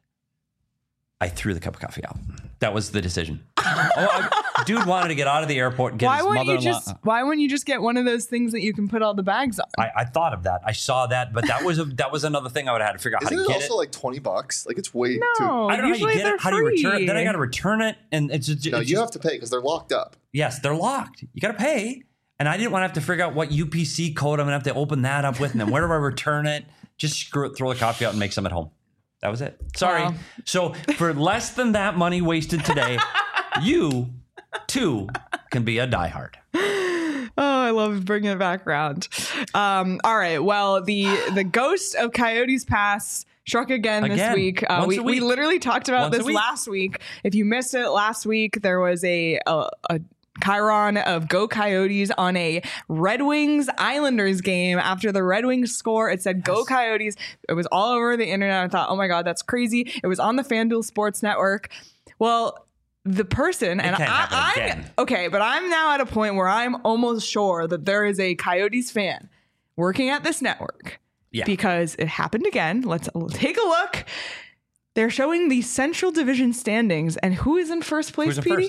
I threw the cup of coffee out. That was the decision. Dude wanted to get out of the airport and get his mother-in-law. Why wouldn't you just get one of those things that you can put all the bags on? I thought of that. I saw that, but that was another thing I would have had to figure out how to get it. Isn't it also like $20? Like it's way too. I don't know how you get it. How do you return it? Then I got to return it, and you have to pay because they're locked up. Yes, they're locked. You got to pay, and I didn't want to have to figure out what UPC code I'm gonna have to open that up with, and then where do I return it? Just screw it, throw the coffee out, and make some at home. That was it. Sorry. Wow. So for less than that money wasted today, you too can be a diehard. Oh, I love bringing it back around. All right. Well, the ghost of Coyotes Pass struck again this week. We literally talked about this last week. If you missed it last week, there was a chyron of Go Coyotes on a Red Wings Islanders game. After the Red Wings score, it said Go Coyotes. It was all over the internet. I thought, oh my God, that's crazy. It was on the FanDuel Sports Network. Well, the person, and but I'm now at a point where I'm almost sure that there is a Coyotes fan working at this network because it happened again. Let's take a look. They're showing the Central Division standings, and who is in first place, Petey?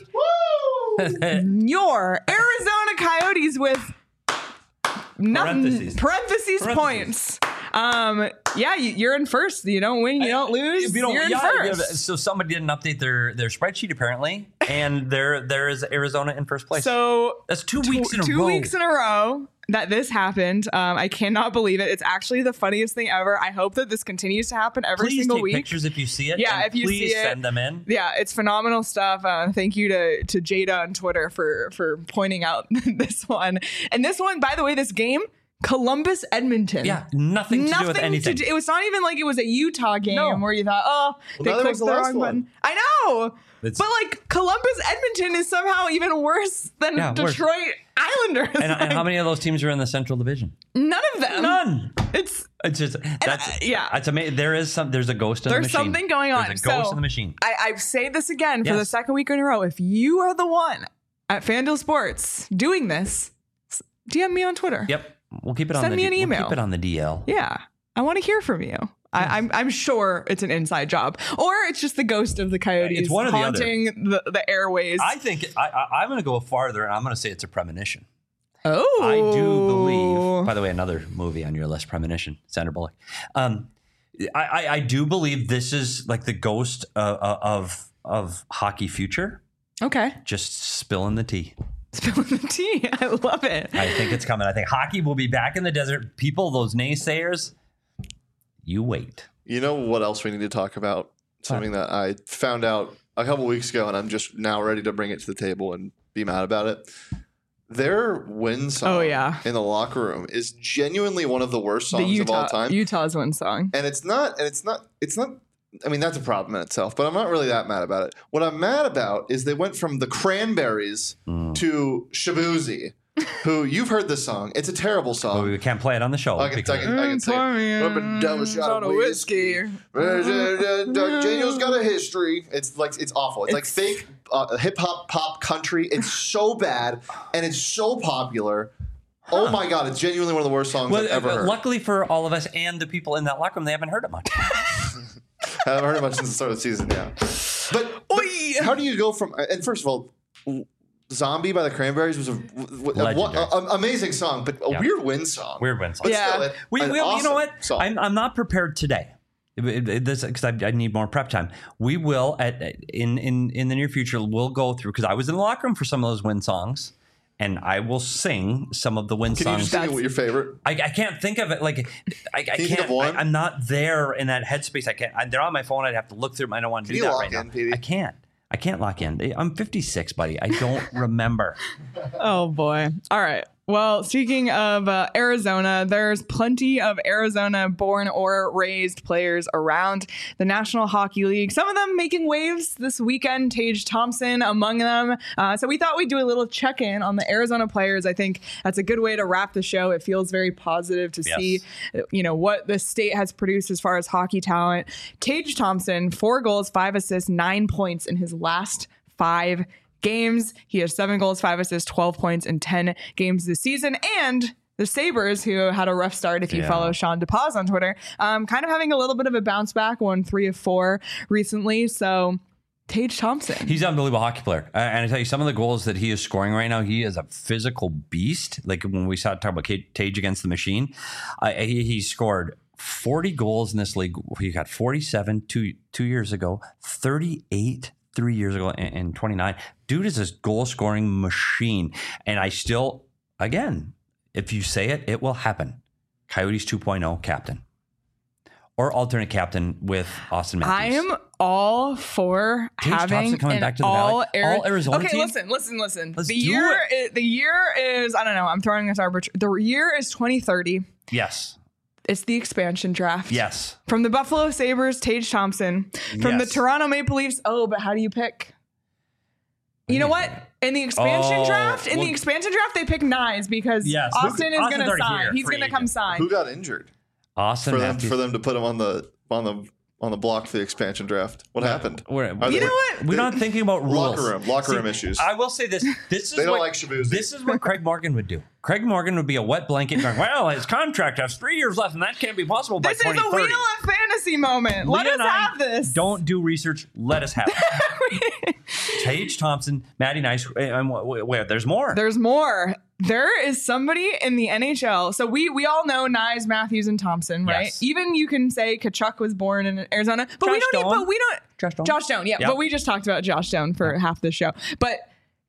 Your Arizona Coyotes with parentheses points. You're in first. You don't win, you don't lose. You're in first. So somebody didn't update their spreadsheet apparently, and there is Arizona in first place. So that's 2 weeks in a row. 2 weeks in a row that this happened. I cannot believe it. It's actually the funniest thing ever. I hope that this continues to happen every single week. Please take pictures if you see it. Yeah, if you see it, send them in. Yeah, it's phenomenal stuff. Thank you to Jada on Twitter for pointing out this one. And this one, by the way, this game, Columbus, Edmonton. Yeah, nothing to do with anything. It was not even like it was a Utah game where you thought, they clicked the wrong button. I know. But like Columbus, Edmonton is somehow even worse than Detroit Islanders. And how many of those teams are in the Central Division? None of them. None. It's just that's amazing. There's a ghost in the machine. There's something going on. There's a ghost in the machine. I say this again for the second week in a row. If you are the one at FanDuel Sports doing this, DM me on Twitter. Yep. We'll keep it on Send me an email. We'll keep it on the DL. Yeah. I want to hear from you. I'm sure it's an inside job, or it's just the ghost of the Coyotes it's one haunting the airways. I think I'm going to go farther, and I'm going to say it's a premonition. Oh, I do believe. By the way, another movie on your list, Premonition, Sandra Bullock. I do believe this is like the ghost of hockey future. Okay, just spilling the tea. Spilling the tea. I love it. I think it's coming. I think hockey will be back in the desert. People, those naysayers, you wait. You know what else we need to talk about? Something that I found out a couple weeks ago, and I'm just now ready to bring it to the table and be mad about it. Their win song in the locker room is genuinely one of the worst songs of all time. Utah's win song. And it's not, I mean, that's a problem in itself, but I'm not really that mad about it. What I'm mad about is they went from the Cranberries to Shabuzi, who you've heard this song. It's a terrible song. Well, we can't play it on the show. I can say up and down a shot of whiskey. Daniel's got a history. It's awful. It's like fake hip hop pop country. It's so bad and it's so popular. Oh my God, it's genuinely one of the worst songs I've ever heard. Luckily for all of us and the people in that locker room, they haven't heard it much. I haven't heard it much since the start of the season, But how do you go from, and first of all, Zombie by the Cranberries was an amazing song, but a weird win song. Weird win song. But still, you know what? I'm not prepared today. Because I need more prep time. We will in the near future. We'll go through because I was in the locker room for some of those win songs, and I will sing some of the win songs. Can you just sing what your favorite? I can't think of it. Like I can't. Think of one? I'm not there in that headspace. I can't. They're on my phone. I'd have to look through them. I don't want to do that right now. Petey? I can't lock in. I'm 56, buddy. I don't remember. Oh boy. All right. Well, speaking of Arizona, there's plenty of Arizona-born or raised players around the National Hockey League. Some of them making waves this weekend, Tage Thompson among them. So we thought we'd do a little check-in on the Arizona players. I think that's a good way to wrap the show. It feels very positive to see, what the state has produced as far as hockey talent. Tage Thompson, 4 goals, 5 assists, 9 points in his last 5 games. He has 7 goals, 5 assists, 12 points in 10 games this season. And the Sabres, who had a rough start, if you follow Sean DePaz on Twitter, kind of having a little bit of a bounce back, won 3 of 4 recently. So Tage Thompson. He's an unbelievable hockey player. And I tell you, some of the goals that he is scoring right now, he is a physical beast. Like when we talk about Tage against the machine, he scored 40 goals in this league. He got 47 two years ago, 38 3 years ago, and 29. Dude is a goal-scoring machine. And I still, again, if you say it, it will happen. Coyotes 2.0 captain. Or alternate captain with Austin Matthews. I am all for Tage having Thompson coming back to the all Arizona okay, team? listen. Let's the year is, I don't know, I'm throwing this arbitrary. The year is 2030. Yes. It's the expansion draft. Yes. From the Buffalo Sabres, Tage Thompson. From the Toronto Maple Leafs, but how do you pick? You know what? In the expansion draft, they pick Knies because Austin is going to sign. He's going to come sign. Who got injured? Austin for them to put him on the block for the expansion draft. What happened? You know what? We're not thinking about rules. Locker room issues. I will say this. This is they don't like Shabuzi. This is what Craig Morgan would do. Craig Morgan would be a wet blanket going, well, his contract has 3 years left, and that can't be possible by 2030. This is a Wheel of Fantasy moment. Let us have this. Don't do research. Let us have it. Tage Thompson, Matty Nice. There's more. There's more. There is somebody in the NHL. So we all know Knies, Matthews, and Thompson, right? Yes. Even you can say Tkachuk was born in Arizona, but we don't. Josh Doan, yeah. Yep. But we just talked about Josh Doan for half the show. But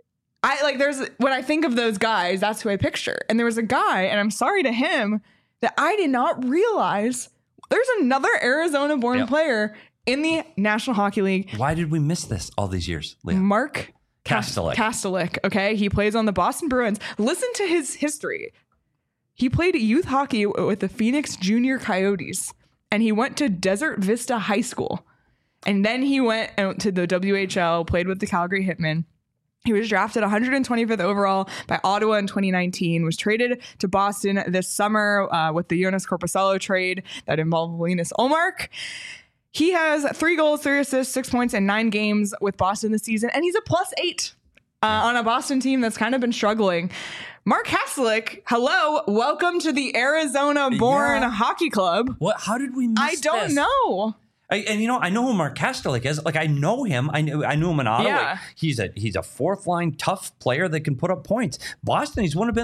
when I think of those guys, that's who I picture. And there was a guy, and I'm sorry to him, that I did not realize there's another Arizona-born player in the National Hockey League. Why did we miss this all these years, Leah? Mark Kastelik. Okay, he plays on the Boston Bruins. Listen to his history. He played youth hockey with the Phoenix Junior Coyotes, and he went to Desert Vista High School. And then he went to the WHL, played with the Calgary Hitmen. He was drafted 125th overall by Ottawa in 2019, was traded to Boston this summer with the Jonas Korpisalo trade that involved Linus Ullmark. He has 3 goals, 3 assists, 6 points in 9 games with Boston this season, and he's a +8 on a Boston team that's kind of been struggling. Mark Kastelik, hello, welcome to the Arizona-born hockey club. What? How did we miss I don't know. I know who Mark Kastelik is. Like, I know him. I knew him in Ottawa. Yeah. He's a fourth-line tough player that can put up points. Boston, he's one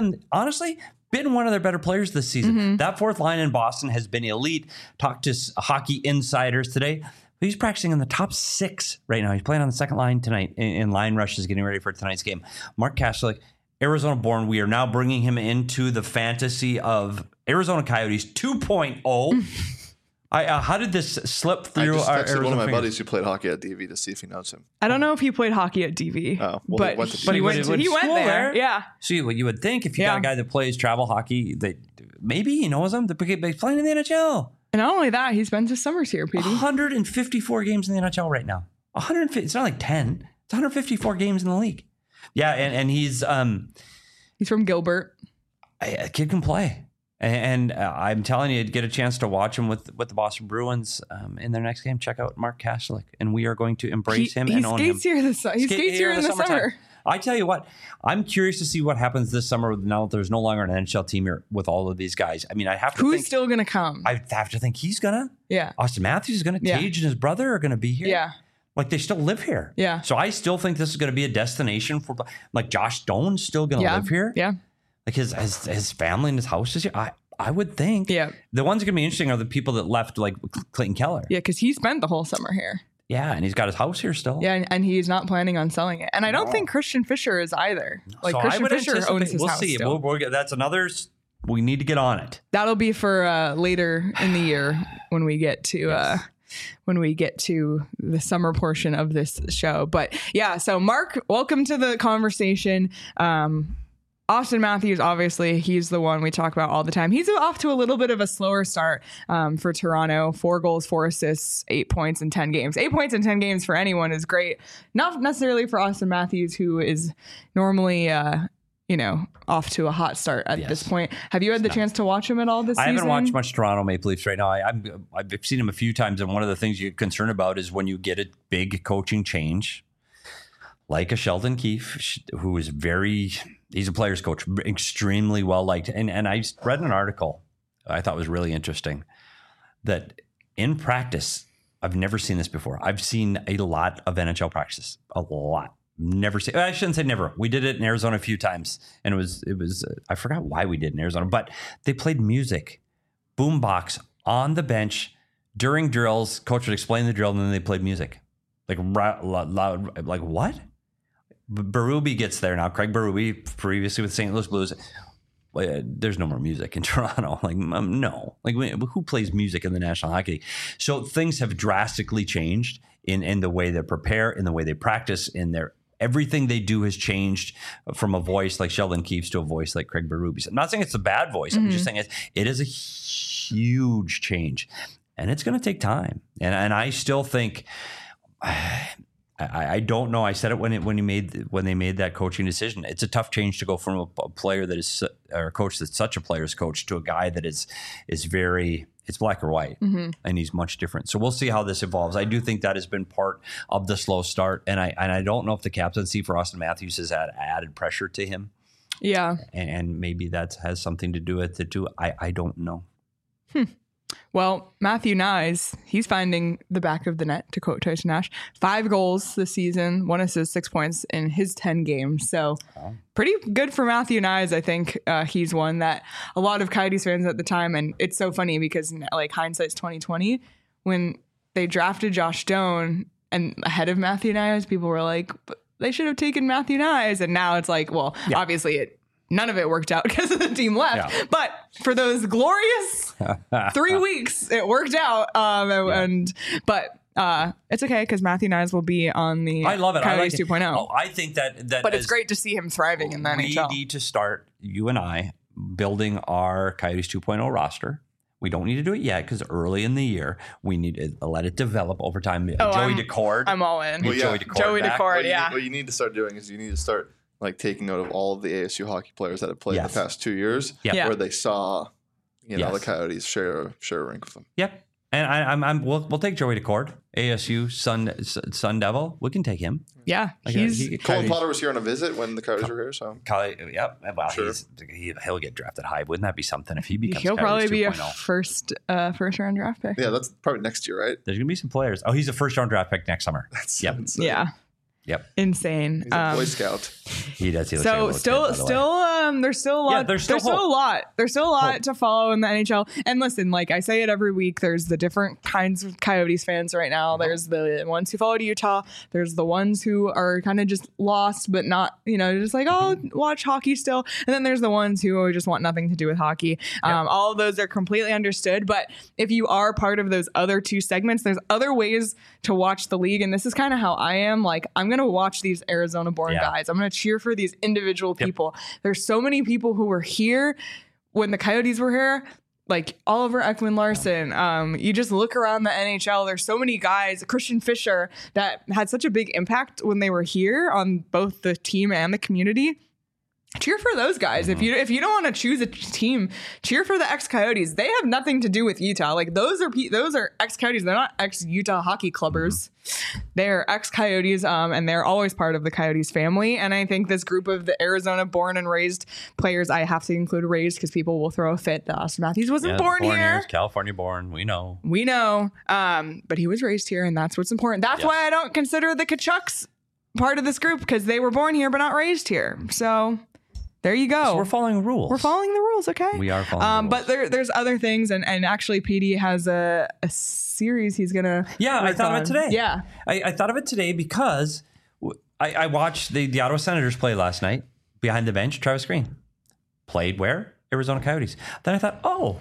of their better players this season. Mm-hmm. That fourth line in Boston has been elite. Talked to hockey insiders today. He's practicing in the top 6 right now. He's playing on the second line tonight in line rushes, getting ready for tonight's game. Mark Kastelik, Arizona-born. We are now bringing him into the fantasy of Arizona Coyotes 2.0. How did this slip through? I just texted one of my buddies who played hockey at DV to see if he knows him. I don't know if he played hocky at DV, but he went there. Yeah. See, what you would think if you got a guy that plays travel hockey, that maybe he knows him. They're playing in the NHL. And not only that, he spends his summers here, Petey. 154 games in the NHL right now. 150. It's not like 10. It's 154 games in the league. Yeah, and he's from Gilbert. A kid can play. And I'm telling you, get a chance to watch him with the Boston Bruins in their next game. Check out Mark Kastelik, and we are going to embrace him and own him. He skates here in the summer. I tell you what, I'm curious to see what happens this summer now that there's no longer an NHL team here with all of these guys. I mean, I have to Who's still going to come? I have to think he's going to. Yeah. Austin Matthews is going to. Tage and his brother are going to be here. Yeah. Like, they still live here. Yeah. So I still think this is going to be a destination for, like, Josh Doan's still going to live here. Yeah. Like, his family and his house is here. I would think. Yeah. The ones that are going to be interesting are the people that left, like Clayton Keller. Yeah, because he spent the whole summer here. Yeah, and he's got his house here still. Yeah, and he's not planning on selling it. And I don't think Christian Fisher is either. Like, so Christian Fisher owns his house see. Still. That's another. We need to get on it. That'll be for later in the year when we get to the summer portion of this show. But yeah, so Mark, welcome to the conversation. Auston Matthews, obviously, he's the one we talk about all the time. He's off to a little bit of a slower start for Toronto. 4 goals, 4 assists, 8 points in 10 games. 8 points in 10 games for anyone is great. Not necessarily for Auston Matthews, who is normally, off to a hot start at this point. Have you had the chance to watch him at all this season? I haven't watched much Toronto Maple Leafs right now. I've seen him a few times, and one of the things you're concerned about is when you get a big coaching change, like a Sheldon Keefe, who is he's a player's coach, extremely well liked. And I read an article I thought was really interesting that in practice, I've never seen this before. I've seen a lot of NHL practices, a lot. Never seen. I shouldn't say never. We did it in Arizona a few times, and it was. I forgot why we did it in Arizona, but they played music, boombox on the bench during drills. Coach would explain the drill, and then they played music, like loud. Like what? Berube gets there now. Craig Berube, previously with St. Louis Blues. There's no more music in Toronto. Like no. Like who plays music in the National Hockey League? So things have drastically changed in the way they prepare, in the way they practice, in their. Everything they do has changed from a voice like Sheldon Keefe's to a voice like Craig Berube's. I'm not saying it's a bad voice. I'm just saying it is a huge change, and it's going to take time. And I still think I don't know. I said it when they made that coaching decision. It's a tough change to go from a player that is or a coach that's such a player's coach to a guy that is very. It's black or white, and he's much different. So we'll see how this evolves. I do think that has been part of the slow start, and I don't know if the captaincy for Auston Matthews has added pressure to him. Yeah, and maybe that has something to do with it too. I don't know. Well, Matthew Knies, he's finding the back of the net, to quote Tyson Nash. 5 goals this season, 1 assist, 6 points in his 10 games. So pretty good for Matthew Knies. I think he's one that a lot of Coyotes fans at the time, and it's so funny because like hindsight's 2020, when they drafted Josh Doan and ahead of Matthew Knies, people were like, they should have taken Matthew Knies. And now it's like, well, obviously none of it worked out because the team left. Yeah. But for those glorious 3 weeks, it worked out. But it's okay because Matthew Knies will be on the Coyotes 2.0. Oh, I think that. But it's great to see him thriving in the NHL. We need to start, you and I, building our Coyotes 2.0 roster. We don't need to do it yet because early in the year, we need to let it develop over time. Joey Daccord. I'm all in. Joey Daccord, What you need to start doing is you need to start like taking note of all of the ASU hockey players that have played in the past 2 years, where they saw, the Coyotes share a rink with them. Yep, and we'll take Joey Daccord, ASU Sun Devil. We can take him. Yeah, Colin Potter was here on a visit when the Coyotes were here. So well, sure. He'll get drafted high. Wouldn't that be something if he becomes? He'll Coyotes probably 2.0? Be a first round draft pick. Yeah, that's probably next year, right? There's gonna be some players. Oh, he's a first round draft pick next summer. Insane. Yeah. Yep. Insane. He's a Boy Scout. He does. He so still, there's still a lot. There's still a lot. There's still a lot to follow in the NHL. And listen, like I say it every week, there's the different kinds of Coyotes fans right now. There's the ones who followed Utah. There's the ones who are kind of just lost, but not, just like, watch hockey still. And then there's the ones who just want nothing to do with hockey. All of those are completely understood. But if you are part of those other two segments, there's other ways to watch the league. And this is kind of how I am. Like, I'm going to watch these Arizona-born guys. I'm going to cheer for these individual people. There's so many people who were here when the Coyotes were here, like Oliver Ekman-Larsson. You just look around the NHL. There's so many guys, Christian Fisher, that had such a big impact when they were here on both the team and the community. Cheer for those guys. If you don't want to choose a team, cheer for the ex-Coyotes. They have nothing to do with Utah. Like those are ex-Coyotes. They're not ex-Utah hockey clubbers. They're ex-Coyotes, and they're always part of the Coyotes family. And I think this group of the Arizona-born and raised players, I have to include raised because people will throw a fit that Auston Matthews wasn't born here. California-born. We know. But he was raised here, and that's what's important. That's why I don't consider the Tkachuks part of this group because they were born here but not raised here. So there you go. So we're following rules. We're following the rules, okay? We are following the rules. But there's other things, and actually PD has a series he's gonna. Yeah, I thought of it today. Yeah, I thought of it today because I watched the Ottawa Senators play last night. Behind the bench, Travis Green played where? Arizona Coyotes. Then I thought,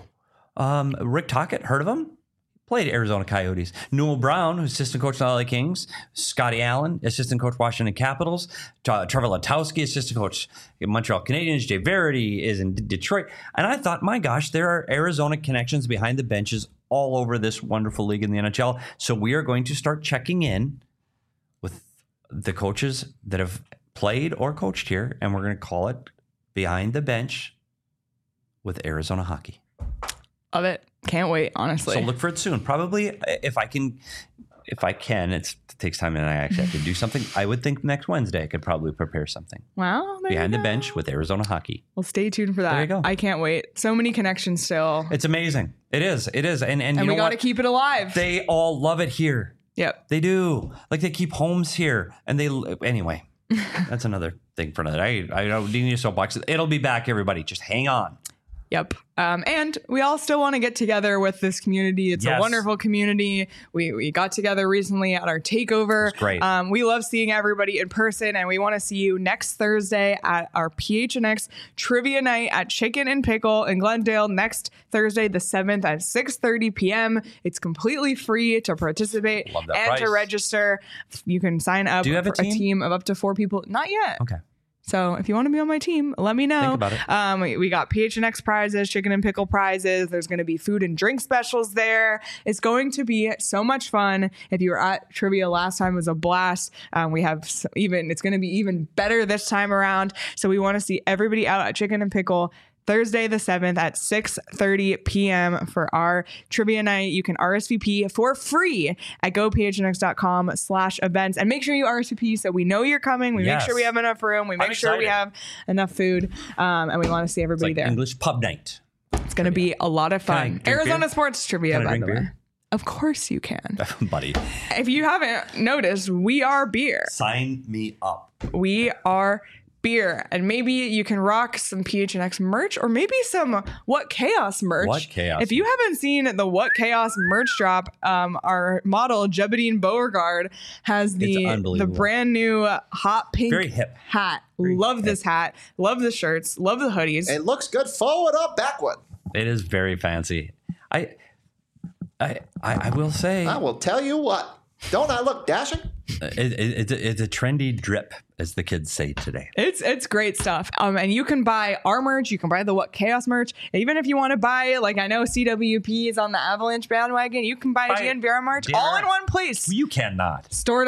Rick Tocchet, heard of him? Played Arizona Coyotes. Newell Brown, who's assistant coach of the LA Kings. Scotty Allen, assistant coach Washington Capitals. Trevor Letowski, assistant coach Montreal Canadiens. Jay Verity is in Detroit. And I thought, my gosh, there are Arizona connections behind the benches all over this wonderful league in the NHL. So we are going to start checking in with the coaches that have played or coached here, and we're going to call it Behind the Bench with Arizona Hockey. Love it. Can't wait, honestly. So look for it soon. Probably if I can, it takes time and I actually have to do something. I would think next Wednesday I could probably prepare something. Wow. Behind the Bench with Arizona Hockey. Well, stay tuned for that. There you go. I can't wait. So many connections still. It's amazing. It is. And we got to keep it alive. They all love it here. Yep. They do. Like they keep homes here. And anyway, that's another thing for another. I don't need a soapbox. It'll be back, everybody. Just hang on. Yep. And we all still want to get together with this community. It's a wonderful community. We got together recently at our takeover. It's great. We love seeing everybody in person, and we want to see you next Thursday at our PHNX Trivia Night at Chicken and Pickle in Glendale next Thursday, the 7th at 6:30 p.m. It's completely free to participate and price. to register. You can sign up for a team of up to 4 people. Not yet. Okay. So if you want to be on my team, let me know. Think about it. We got PHNX prizes, chicken and pickle prizes. There's going to be food and drink specials there. It's going to be so much fun. If you were at trivia last time, it was a blast. It's going to be even better this time around. So we want to see everybody out at Chicken and Pickle Thursday the 7th at 6:30 p.m. for our trivia night. You can RSVP for free at gophnx.com/events, and make sure you RSVP so we know you're coming. We make sure we have enough room. We make sure we have enough food, and we want to see everybody there. English pub night. It's going to be a lot of fun. Arizona beer? sports trivia, by the way. Beer? Of course you can. Buddy. If you haven't noticed, we are beer. Sign me up. We are beer, and maybe you can rock some PHNX merch, or maybe some What Chaos merch. What Chaos? If you haven't seen the What Chaos merch drop, our model Jebedian Beauregard has the brand new hot pink very hip hat. Love this hat. Love the shirts. Love the hoodies. It looks good forward up, backward. It is very fancy. I will say. I will tell you what. Don't I look dashing? It's a trendy drip, as the kids say today. It's great stuff. And you can buy our merch. You can buy the What Chaos merch. Even if you want to buy, like I know CWP is on the Avalanche bandwagon, you can buy GNVR merch all in one place. You cannot.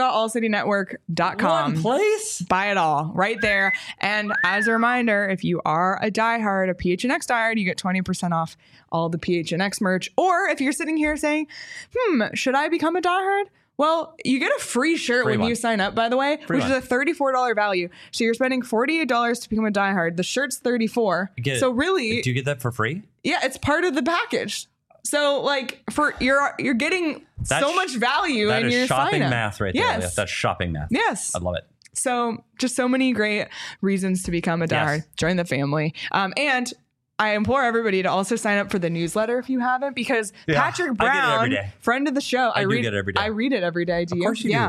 Store.allcitynetwork.com. One place? Buy it all right there. And as a reminder, if you are a diehard, a PHNX diehard, you get 20% off all the PHNX merch. Or if you're sitting here saying, should I become a diehard? Well, you get a free shirt when you sign up, by the way, which is a $34 value. So you're spending $48 to become a diehard. The shirt's $34. So really, do you get that for free? Yeah, it's part of the package. So like you're getting so much value in your sign up. That is shopping math right there. Yes. That's shopping math. Yes. I love it. So just so many great reasons to become a diehard. Yes. Join the family. And I implore everybody to also sign up for the newsletter if you haven't, because Patrick Brown, friend of the show, I read it every day. I read it every day. Do you? Of course you do.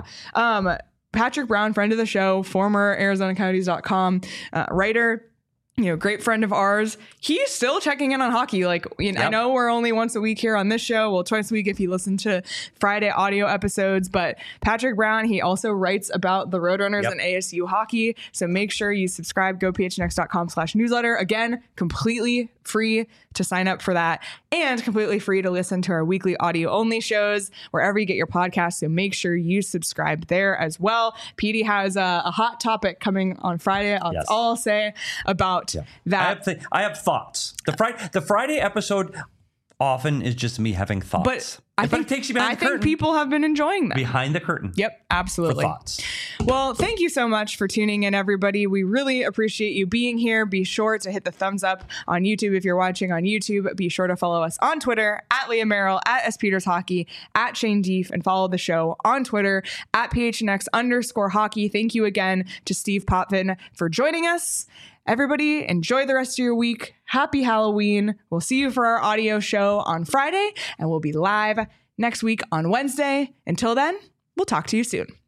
Patrick Brown, friend of the show, former ArizonaCoyotes.com writer, great friend of ours. He's still checking in on hockey. I know we're only once a week here on this show. Well, twice a week if you listen to Friday audio episodes. But Patrick Brown, he also writes about the Roadrunners and ASU hockey. So make sure you subscribe, gophnx.com/newsletter. Again, completely free to sign up for that, and completely free to listen to our weekly audio only shows wherever you get your podcasts. So make sure you subscribe there as well. PD has a hot topic coming on Friday. That's all I'll say about that. I have thoughts. The Friday episode often is just me having thoughts. But I think people have been enjoying that. Behind the curtain. Yep, absolutely. For thoughts. Well, thank you so much for tuning in, everybody. We really appreciate you being here. Be sure to hit the thumbs up on YouTube if you're watching on YouTube. Be sure to follow us on Twitter at Leah Merrill, at @SPetersHockey, at Shane Deef, and follow the show on Twitter at PHNX_hockey. Thank you again to Steve Potvin for joining us. Everybody, enjoy the rest of your week. Happy Halloween. We'll see you for our audio show on Friday, and we'll be live next week on Wednesday. Until then, we'll talk to you soon.